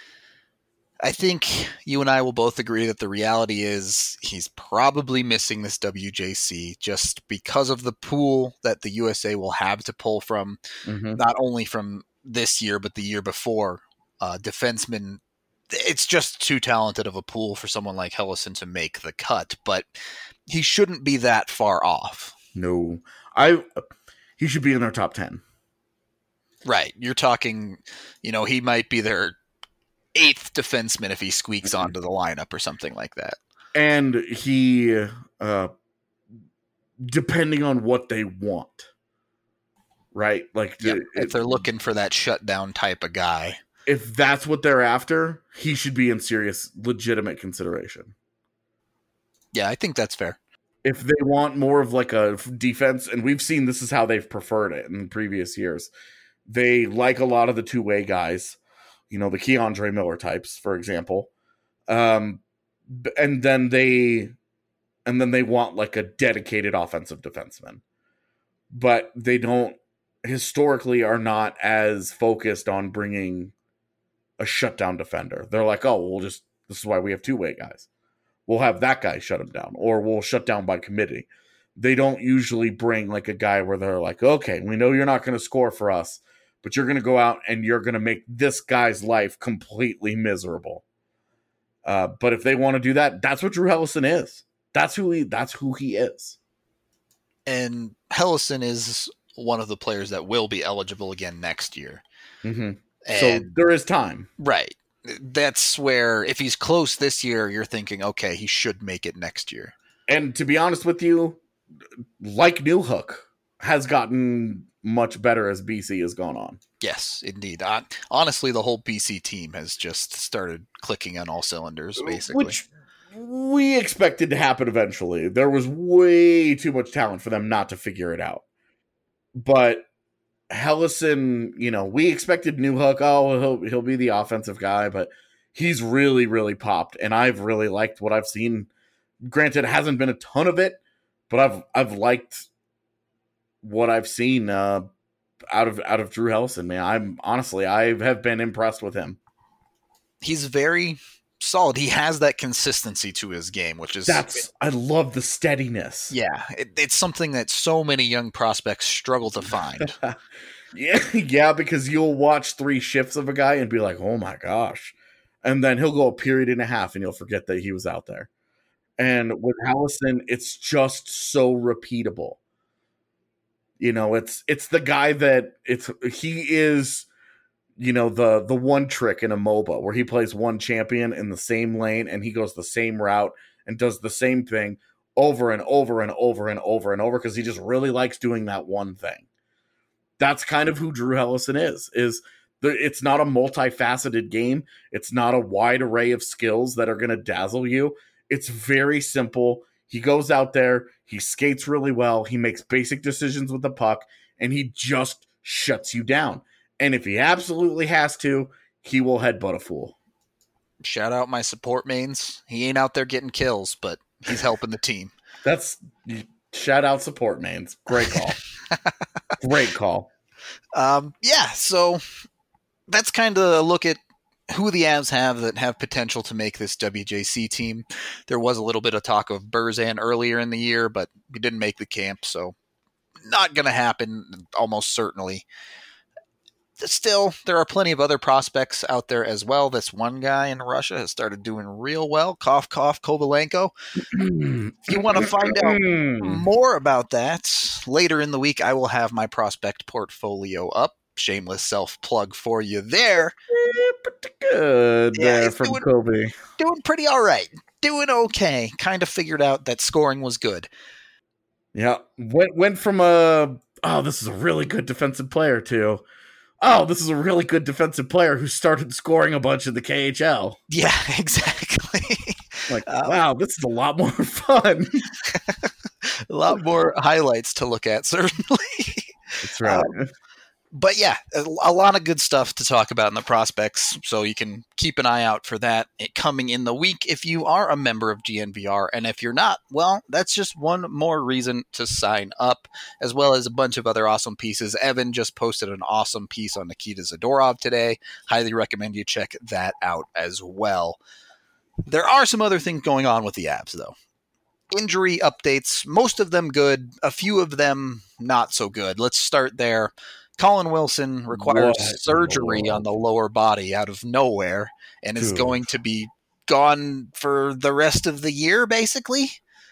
I think you and I will both agree that the reality is he's probably missing this W J C just because of the pool that the U S A will have to pull from, Mm-hmm. not only from this year, but the year before. Uh, defensemen, it's just too talented of a pool for someone like Hellison to make the cut, but he shouldn't be that far off. No, I. He should be in their top ten. Right. You're talking, you know, he might be their eighth defenseman if he squeaks Mm-hmm. onto the lineup or something like that. And he, uh, depending on what they want, right? Like, Yep. the, If they're looking for that shutdown type of guy. if that's what they're after, he should be in serious, legitimate consideration. Yeah, I think that's fair. If they want more of like a defense, and we've seen this is how they've preferred it in previous years, they like a lot of the two-way guys, you know, the Keandre Miller types, for example. Um, and then they, and then they want like a dedicated offensive defenseman, but they don't historically are not as focused on bringing a shutdown defender. They're like, oh, we'll just, this is why we have two-way guys. We'll have that guy shut him down, or we'll shut down by committee. They don't usually bring like a guy where they're like, okay, we know you're not going to score for us, but you're going to go out and you're going to make this guy's life completely miserable. Uh, but if they want to do that, that's what Drew Hellison is. That's who he, that's who he is. And Hellison is one of the players that will be eligible again next year. Mm-hmm. And, So there is time. right. That's where if he's close this year, you're thinking, okay, he should make it next year. And to be honest with you, like Newhook has gotten much better as B C has gone on. Yes, indeed. Uh, honestly, the whole B C team has just started clicking on all cylinders, basically. Which we expected to happen eventually. There was way too much talent for them not to figure it out. But Hellison, you know, we expected Newhook, oh, he'll, he'll be the offensive guy, but he's really, really popped. And I've really liked what I've seen. Granted, it hasn't been a ton of it, but I've I've liked what I've seen uh, out of out of Drew Hellison, man. I'm honestly, I have been impressed with him. He's very solid. He has that consistency to his game, which is That's I love the steadiness. yeah, it, it's something that so many young prospects struggle to find. yeah, yeah, because you'll watch three shifts of a guy and be like, "Oh my gosh," and then he'll go a period and a half, and you'll forget that he was out there. And with Hellison, it's just so repeatable. You know, it's it's the guy that it's he is, you know, the the one trick in a MOBA where he plays one champion in the same lane and he goes the same route and does the same thing over and over and over and over and over because he just really likes doing that one thing. That's kind of who Drew Hellison is. Is the, it's not a multifaceted game. It's not a wide array of skills that are going to dazzle you. It's very simple. He goes out there, he skates really well, he makes basic decisions with the puck, and he just shuts you down. And if he absolutely has to, he will headbutt a fool. Shout out my support mains. He ain't out there getting kills, but he's helping the team. That's shout out support mains. Great call. Great call. Um, yeah, so that's kind of a look at who the Avs have that have potential to make this W J C team. There was a little bit of talk of Berzan earlier in the year, but he didn't make the camp, so not going to happen almost certainly. Still, there are plenty of other prospects out there as well. This one guy in Russia has started doing real well. Cough, cough, Kovalenko. If you want to find out more about that, later in the week, I will have my prospect portfolio up. Shameless self-plug for you there. Pretty good Yeah, there he's from doing- Kobe. Doing pretty all right. Doing okay. Kind of figured out that scoring was good. Yeah, went went from a oh, this is a really good defensive player to oh, this is a really good defensive player who started scoring a bunch in the K H L. Yeah, exactly. Like, Uh, wow, this is a lot more fun. A lot more highlights to look at, certainly. That's right. But yeah, a, a lot of good stuff to talk about in the prospects, so you can keep an eye out for that coming in the week if you are a member of G N V R. And if you're not, well, that's just one more reason to sign up, as well as a bunch of other awesome pieces. Evan just posted an awesome piece on Nikita Zadorov today. Highly recommend you check that out as well. There are some other things going on with the Avs, though. Injury updates, most of them good, a few of them not so good. Let's start there. Colin Wilson requires What? surgery Lord. on the lower body out of nowhere and is Dude. going to be gone for the rest of the year, basically.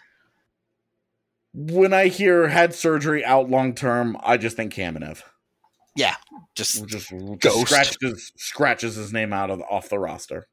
When I hear had surgery out long term, I just think Kamenev. Yeah, just, Just, just Ghost. scratches, scratches his name out of off the roster.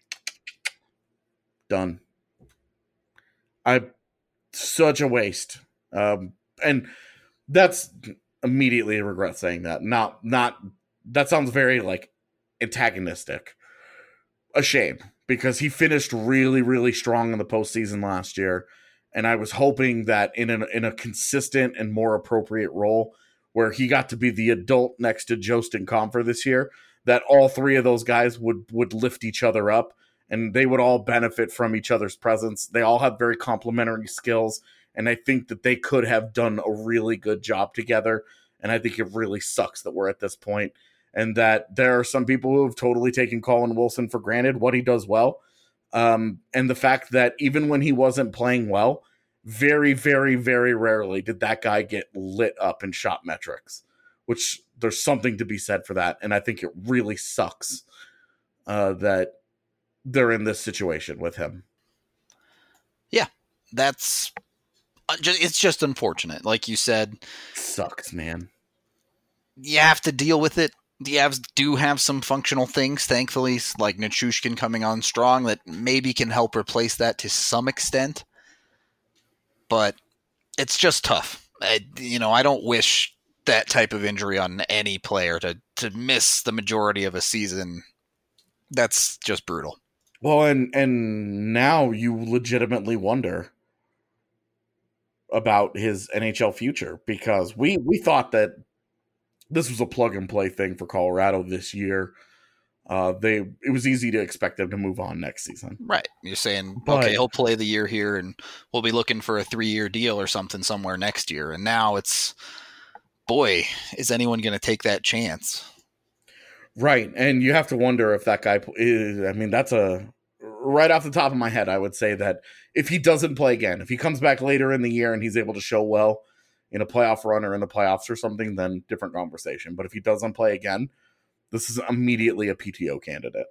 Done. I such a waste. Um, and that's immediately regret saying that. Not not that sounds very like antagonistic. A shame, because he finished really, really strong in the postseason last year. And I was hoping that in a, in a consistent and more appropriate role where he got to be the adult next to Jostin Comfer this year, that all three of those guys would would lift each other up and they would all benefit from each other's presence. They all have very complementary skills, and I think that they could have done a really good job together. And I think it really sucks that we're at this point, and that there are some people who have totally taken Colin Wilson for granted, what he does well. Um, and the fact that even when he wasn't playing well, very, very, very rarely did that guy get lit up in shot metrics, which there's something to be said for that. And I think it really sucks uh, that they're in this situation with him. Yeah, that's it's just unfortunate. Like you said, sucks, man. You have to deal with it. The Avs do have some functional things, thankfully, like Nichushkin coming on strong that maybe can help replace that to some extent. But it's just tough. I, you know, I don't wish that type of injury on any player to, to miss the majority of a season. That's just brutal. Well, and and now you legitimately wonder about his N H L future, because we, we thought that this was a plug and play thing for Colorado this year. Uh, they it was easy to expect them to move on next season. Right. You're saying, But- okay, he'll play the year here and we'll be looking for a three-year deal or something somewhere next year. And now it's, boy, is anyone going to take that chance? Right, and you have to wonder if that guy is, I mean, that's a, right off the top of my head, I would say that if he doesn't play again, if he comes back later in the year and he's able to show well in a playoff run or in the playoffs or something, then different conversation. But if he doesn't play again, this is immediately a P T O candidate.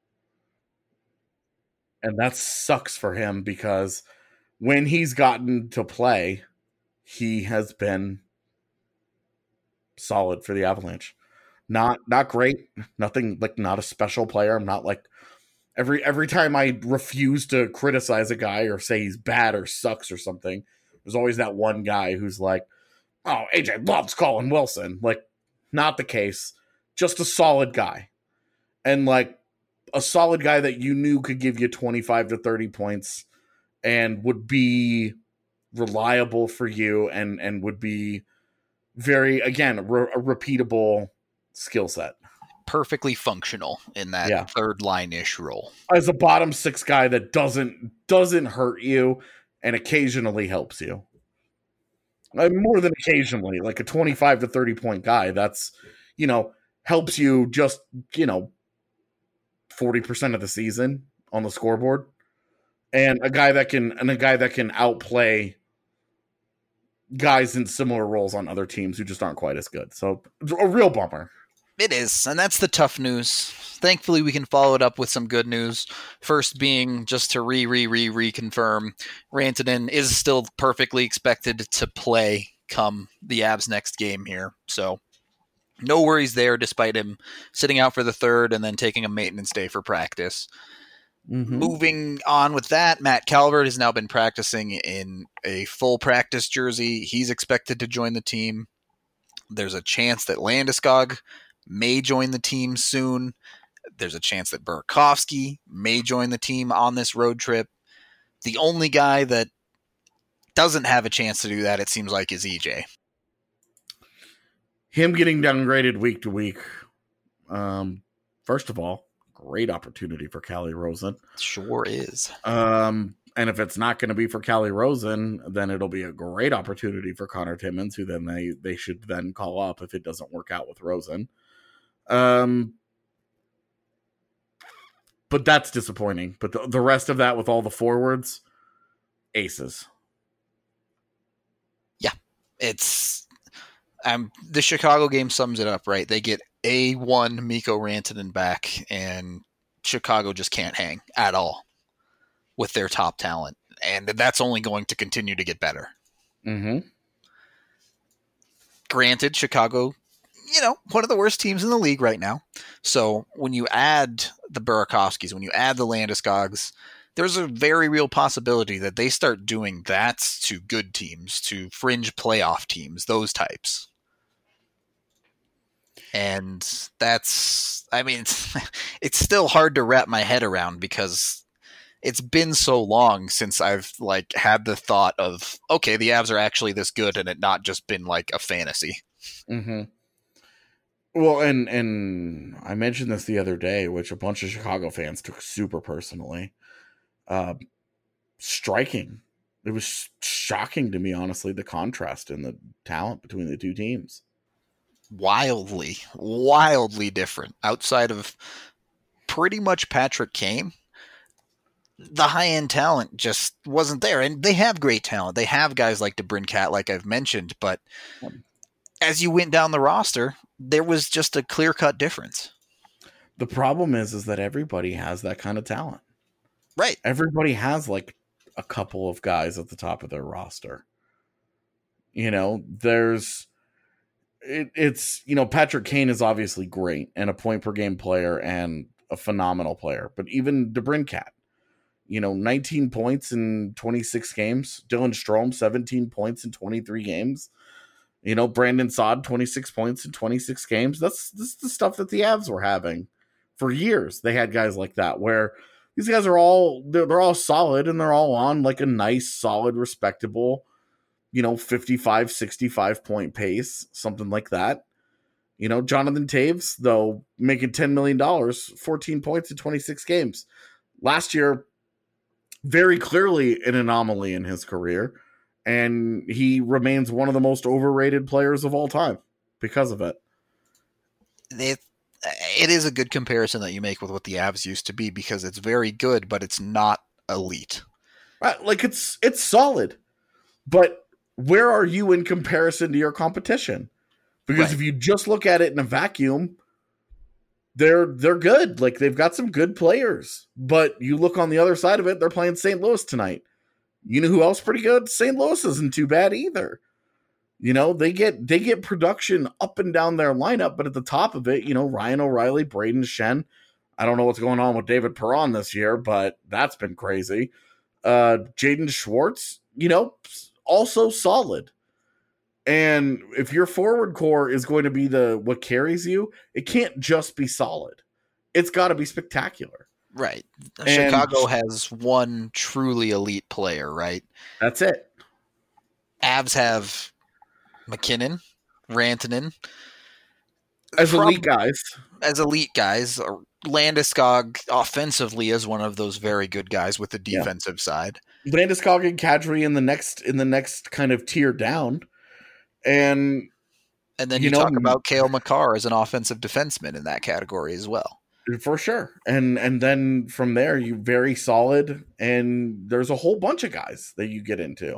And that sucks for him, because when he's gotten to play, he has been solid for the Avalanche. Not not great, nothing like not a special player. I'm not like every every time I refuse to criticize a guy or say he's bad or sucks or something, there's always that one guy who's like, "Oh, A J loves Colin Wilson." Like, not the case. Just a solid guy. And like a solid guy that you knew could give you twenty-five to thirty points and would be reliable for you and and would be very, again, re- a repeatable skill set. Perfectly functional in that Yeah. third line-ish role. As a bottom six guy that doesn't doesn't hurt you and occasionally helps you. Uh, more than occasionally, like a twenty-five to thirty point guy that's, you know, helps you just, you know, forty percent of the season on the scoreboard. And a guy that can and a guy that can outplay guys in similar roles on other teams who just aren't quite as good. So a real bummer. It is, and that's the tough news. Thankfully, we can follow it up with some good news. First being, just to re, re, re, reconfirm, Rantanen is still perfectly expected to play come the Avs' next game here. So no worries there, despite him sitting out for the third and then taking a maintenance day for practice. Mm-hmm. Moving on with that, Matt Calvert has now been practicing in a full practice jersey. He's expected to join the team. There's a chance that Landeskog may join the team soon. There's a chance that Burakovsky may join the team on this road trip. The only guy that doesn't have a chance to do that, it seems like, is E J. him getting downgraded week to week. Um, first of all, great opportunity for Calle Rosen. Sure is. Um, and if it's not going to be for Calle Rosen, then it'll be a great opportunity for Connor Timmins, who then they, they should then call up if it doesn't work out with Rosen. Um, but that's disappointing. But the, the rest of that with all the forwards, aces. Yeah, it's um the Chicago game sums it up, right? They get A one Mikko Rantanen back, and Chicago just can't hang at all with their top talent, and that's only going to continue to get better. Mm-hmm. Granted, Chicago, you know, one of the worst teams in the league right now. So when you add the Burakovskis, when you add the Landeskog's, there's a very real possibility that they start doing that to good teams, to fringe playoff teams, those types. And that's, I mean, it's, it's still hard to wrap my head around because it's been so long since I've like had the thought of, okay, the Avs are actually this good, and it not just been like a fantasy. Mm-hmm. Well, and and I mentioned this the other day, which a bunch of Chicago fans took super personally. Uh, striking. It was shocking to me, honestly, the contrast in the talent between the two teams. Wildly, wildly different. Outside of pretty much Patrick Kane, the high-end talent just wasn't there. And they have great talent. They have guys like DeBrincat, like I've mentioned, but as you went down the roster, there was just a clear-cut difference. The problem is, is that everybody has that kind of talent. Right. Everybody has like a couple of guys at the top of their roster. You know, there's it, it's, you know, Patrick Kane is obviously great and a point per game player and a phenomenal player, but even DeBrincat, you know, nineteen points in twenty-six games, Dylan Strome, seventeen points in twenty-three games, you know, Brandon Saad, twenty-six points in twenty-six games. That's, this is the stuff that the Avs were having for years. They had guys like that where these guys are all, they're, they're all solid and they're all on like a nice, solid, respectable, you know, fifty-five, sixty-five point pace, something like that. You know, Jonathan Toews, though, making ten million dollars, fourteen points in twenty-six games. Last year, very clearly an anomaly in his career, and he remains one of the most overrated players of all time because of it. It, it is a good comparison that you make with what the Avs used to be, because it's very good, but it's not elite. Uh, like, it's it's solid, but where are you in comparison to your competition? Because Right. if you just look at it in a vacuum, they're they're good. Like, they've got some good players. But you look on the other side of it, they're playing Saint Louis tonight. You know who else pretty good? Saint Louis isn't too bad either. You know, they get they get production up and down their lineup, but at the top of it, you know, Ryan O'Reilly, Braden Shen. I don't know what's going on with David Perron this year, but that's been crazy. Uh, Jaden Schwartz, you know, also solid. And if your forward core is going to be the what carries you, it can't just be solid. It's got to be spectacular. Right. And Chicago has one truly elite player, right? That's it. Avs have McKinnon, Rantanen. As Prob- elite guys. As elite guys. Landeskog offensively is one of those very good guys with the defensive yeah. side. Landeskog and Kadri in the next in the next kind of tier down. And and then you, you know, talk about Cale Makar as an offensive defenseman in that category as well. For sure. And and then from there, you very solid, and there's a whole bunch of guys that you get into.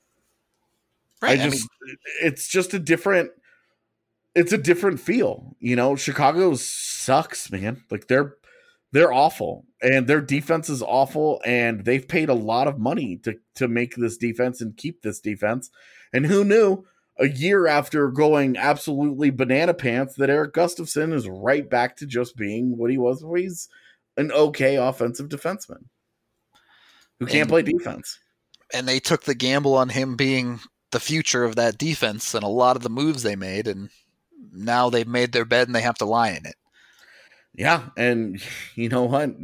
Right. I just I mean, it's just a different it's a different feel. You know, Chicago sucks, man. Like they're they're awful, and their defense is awful, and they've paid a lot of money to to make this defense and keep this defense. And who knew? A year after going absolutely banana pants, that Erik Gustafsson is right back to just being what he was, where he's an okay offensive defenseman who can't and, play defense. And they took the gamble on him being the future of that defense and a lot of the moves they made, and now they've made their bed and they have to lie in it. Yeah, and you know what?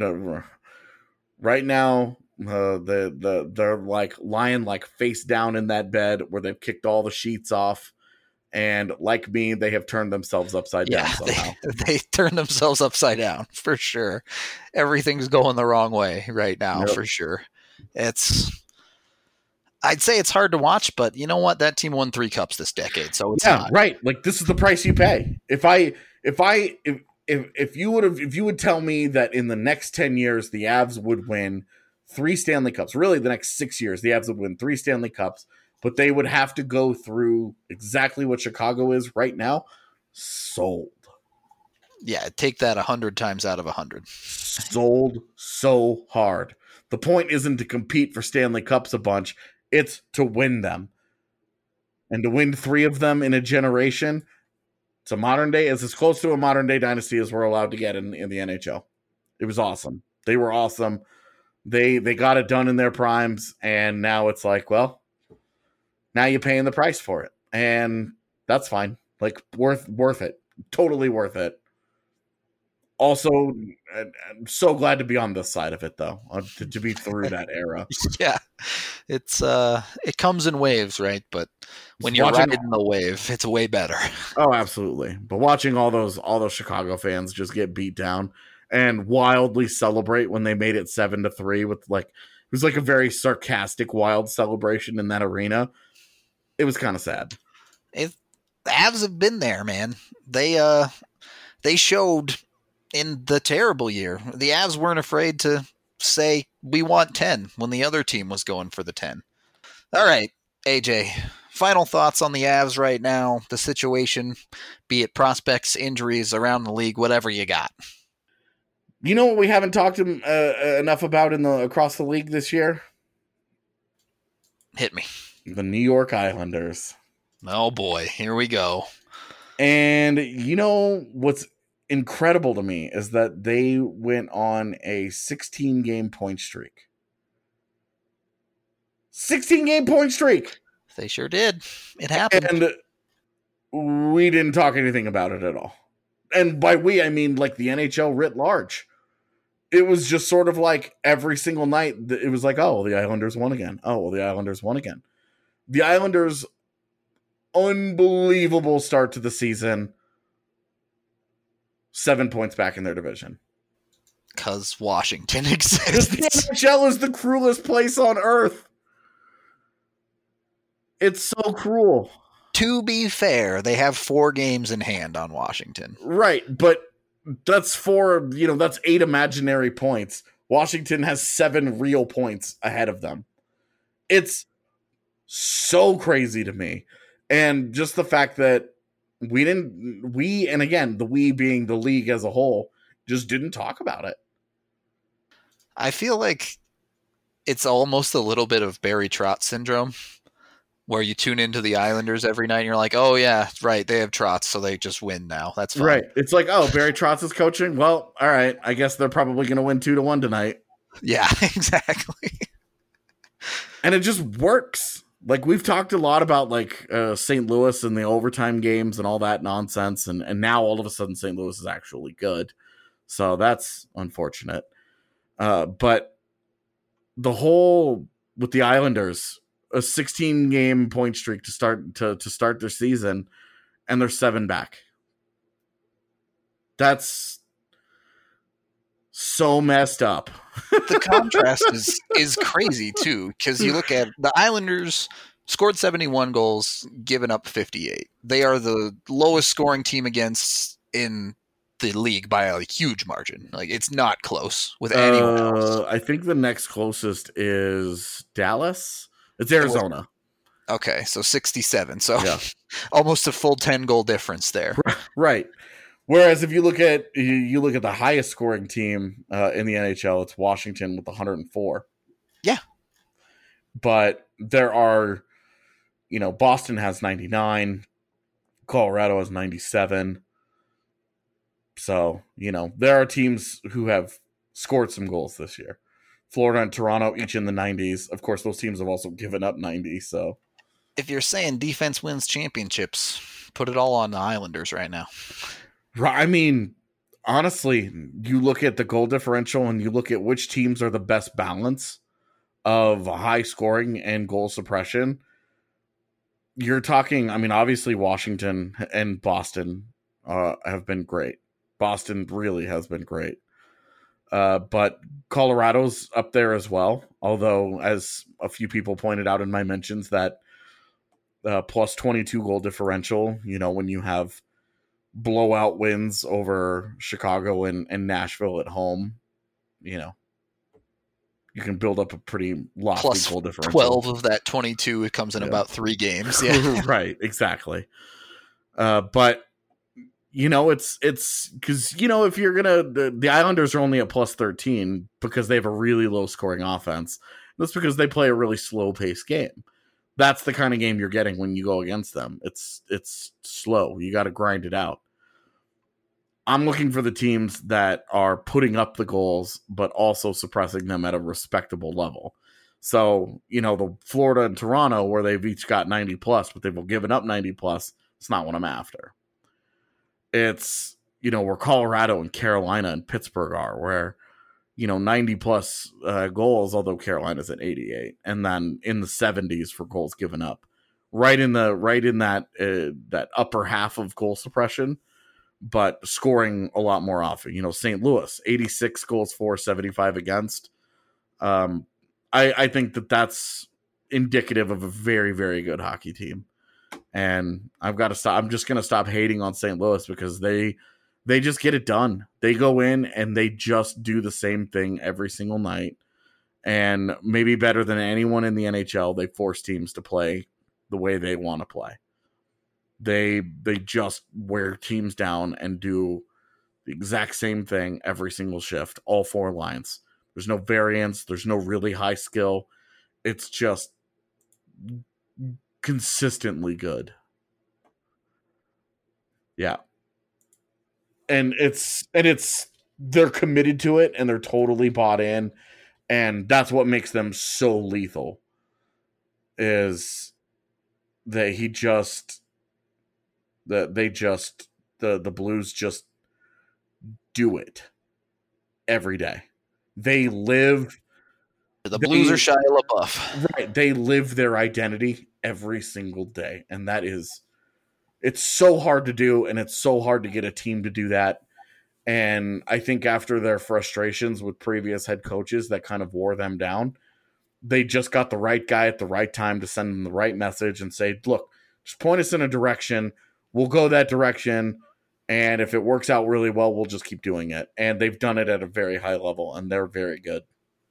Right now, Uh, the the they're like lying like face down in that bed where they've kicked all the sheets off, And like me, they have turned themselves upside Yeah, down somehow. they, they turned themselves upside down for sure. Everything's going the wrong way right now, Yep. for sure. It's, I'd say it's hard to watch, but you know what? That team won three cups this decade, so it's Yeah, not. right. Like this is the price you pay. If I, if I, if if if you would have, if you would tell me that in the next ten years the Avs would win three Stanley Cups, really the next six years the Avs would win three Stanley Cups, but they would have to go through exactly what Chicago is right now, sold. Yeah, take that a hundred times out of a hundred. Sold so hard. The point isn't to compete for Stanley Cups a bunch, it's to win them. And to win three of them in a generation, it's a modern day, it's as close to a modern day dynasty as we're allowed to get in, in the N H L. It was awesome. They were awesome. They they got it done in their primes, and now it's like, well, now you're paying the price for it. And that's fine. Like worth worth it. Totally worth it. Also, I'm so glad to be on this side of it, though, uh, to, to be through that era. Yeah, it's uh, it comes in waves, right? But when you're Watching- riding the wave, it's way better. Oh, absolutely. But watching all those all those Chicago fans just get beat down and wildly celebrate when they made it seven to three with like it was like a very sarcastic, wild celebration in that arena. It was kind of sad. It, the Avs have been there, man. They uh, they showed in the terrible year. The Avs weren't afraid to say we want ten when the other team was going for the ten. All right, A J. Final thoughts on the Avs right now, the situation, be it prospects, injuries around the league, whatever you got. You know what we haven't talked um, uh, enough about in the across the league this year? Hit me. The New York Islanders. Oh boy, here we go. And you know what's incredible to me is that they went on a sixteen game point streak. sixteen game point streak. They sure did. It happened. And we didn't talk anything about it at all. And by we, I mean like the N H L writ large. It was just sort of like every single night, it was like, oh, the Islanders won again. Oh, well, the Islanders won again. The Islanders, unbelievable start to the season. Seven points back in their division. Because Washington Because exists. the N H L is the cruelest place on earth. It's so cruel. To be fair, they have four games in hand on Washington. Right, but that's four, you know, that's eight imaginary points. Washington has seven real points ahead of them. It's so crazy to me. And just the fact that we didn't, we, and again, the we being the league as a whole, just didn't talk about it. I feel like it's almost a little bit of Barry Trotz syndrome, where you tune into the Islanders every night and you're like, oh yeah, right, they have Trotz, so they just win now. That's fine. Right. It's like, oh, Barry Trotz is coaching? Well, all right. I guess they're probably going to win two to one tonight. Yeah, exactly. And it just works. Like we've talked a lot about like uh, Saint Louis and the overtime games and all that nonsense. And, and now all of a sudden Saint Louis is actually good. So that's unfortunate. Uh, but the whole with the Islanders, a sixteen game point streak to start to, to start their season, and they're seven back. That's so messed up. The contrast is is crazy too, because you look at the Islanders scored seventy-one goals, given up fifty-eight. They are the lowest scoring team against in the league by a huge margin. Like it's not close with anyone uh, else. I think the next closest is Dallas. It's Arizona. Okay, so sixty-seven. So Yeah. almost a full ten goal difference there. Right. Whereas if you look at you, you look at the highest scoring team uh, in the N H L, it's Washington with one hundred four. Yeah. But there are, you know, Boston has ninety-nine, Colorado has ninety-seven. So, you know, there are teams who have scored some goals this year. Florida and Toronto each in the nineties. Of course, those teams have also given up ninety, so If you're saying defense wins championships, put it all on the Islanders right now. I mean, honestly, you look at the goal differential and you look at which teams are the best balance of high scoring and goal suppression. you're talking, I mean, obviously Washington and Boston uh, have been great. Boston really has been great. Uh, but Colorado's up there as well. Although, as a few people pointed out in my mentions, that uh, plus twenty-two goal differential, you know, when you have blowout wins over Chicago and, and Nashville at home, you know, you can build up a pretty lofty Plus goal differential. twelve of that twenty-two, it comes in yeah. about three games. Yeah. Right, exactly. Uh, but, you know, it's it's because, you know, if you're going to, the, the Islanders are only at plus thirteen because they have a really low scoring offense. That's because they play a really slow paced game. That's the kind of game you're getting when you go against them. It's it's slow. You got to grind it out. I'm looking for the teams that are putting up the goals, but also suppressing them at a respectable level. So, you know, the Florida and Toronto, where they've each got ninety plus, but they've given up ninety plus, it's not what I'm after. It's, you know, where Colorado and Carolina and Pittsburgh are, where, you know, ninety plus uh, goals, although Carolina's at eighty-eight, and then in the seventies for goals given up. Right in the right in that uh, that upper half of goal suppression, but scoring a lot more often. You know, Saint Louis, eighty-six goals for, seventy-five against. Um, I, I think that that's indicative of a very, very good hockey team. And I've got to stop. I'm just going to stop hating on Saint Louis because they they just get it done. They go in and they just do the same thing every single night. And maybe better than anyone in the N H L, they force teams to play the way they want to play. They they just wear teams down and do the exact same thing every single shift, all four lines. There's no variance. There's no really high skill. It's just consistently good. Yeah. And it's and it's they're committed to it and they're totally bought in. And that's what makes them so lethal. Is that he just that they just the the Blues just do it every day. They live the Blues they, are Shia LaBeouf. Right. They live their identity every single day. And that is it's so hard to do, and it's so hard to get a team to do that. And I think after their frustrations with previous head coaches that kind of wore them down, they just got the right guy at the right time to send them the right message and say, look, just point us in a direction. We'll go that direction. And if it works out really well, we'll just keep doing it. And they've done it at a very high level, and they're very good.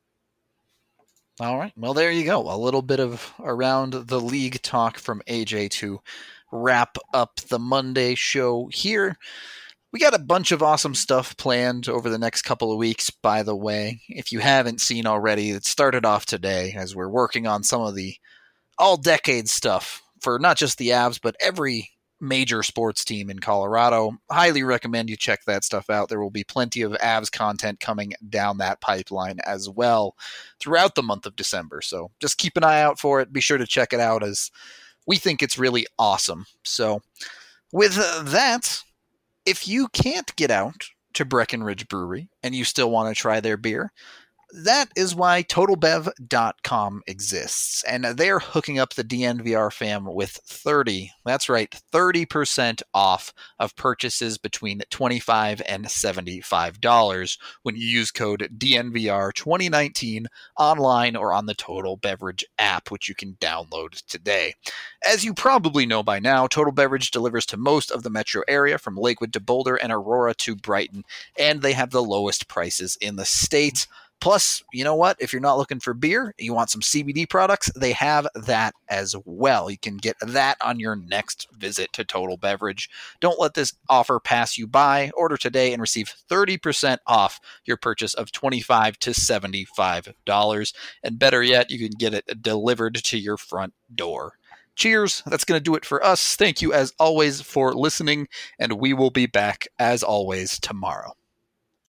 All right. Well, there you go. A little bit of around the league talk from A J to wrap up the Monday show here. We got a bunch of awesome stuff planned over the next couple of weeks, by the way. If you haven't seen already, it started off today as we're working on some of the all-decade stuff for not just the Avs, but every major sports team in Colorado. Highly recommend you check that stuff out. There will be plenty of Avs content coming down that pipeline as well throughout the month of December. So just keep an eye out for it. Be sure to check it out, as we think it's really awesome. So with that, if you can't get out to Breckenridge Brewery and you still want to try their beer, that is why Total Bev dot com exists, and they're hooking up the D N V R fam with thirty, that's right, thirty percent off of purchases between twenty-five dollars and seventy-five dollars when you use code D N V R twenty nineteen online or on the Total Beverage app, which you can download today. As you probably know by now, Total Beverage delivers to most of the metro area, from Lakewood to Boulder and Aurora to Brighton, and they have the lowest prices in the state. Plus, you know what? If you're not looking for beer, you want some C B D products, they have that as well. You can get that on your next visit to Total Beverage. Don't let this offer pass you by. Order today and receive thirty percent off your purchase of twenty-five dollars to seventy-five dollars. And better yet, you can get it delivered to your front door. Cheers. That's going to do it for us. Thank you, as always, for listening, and we will be back, as always, tomorrow.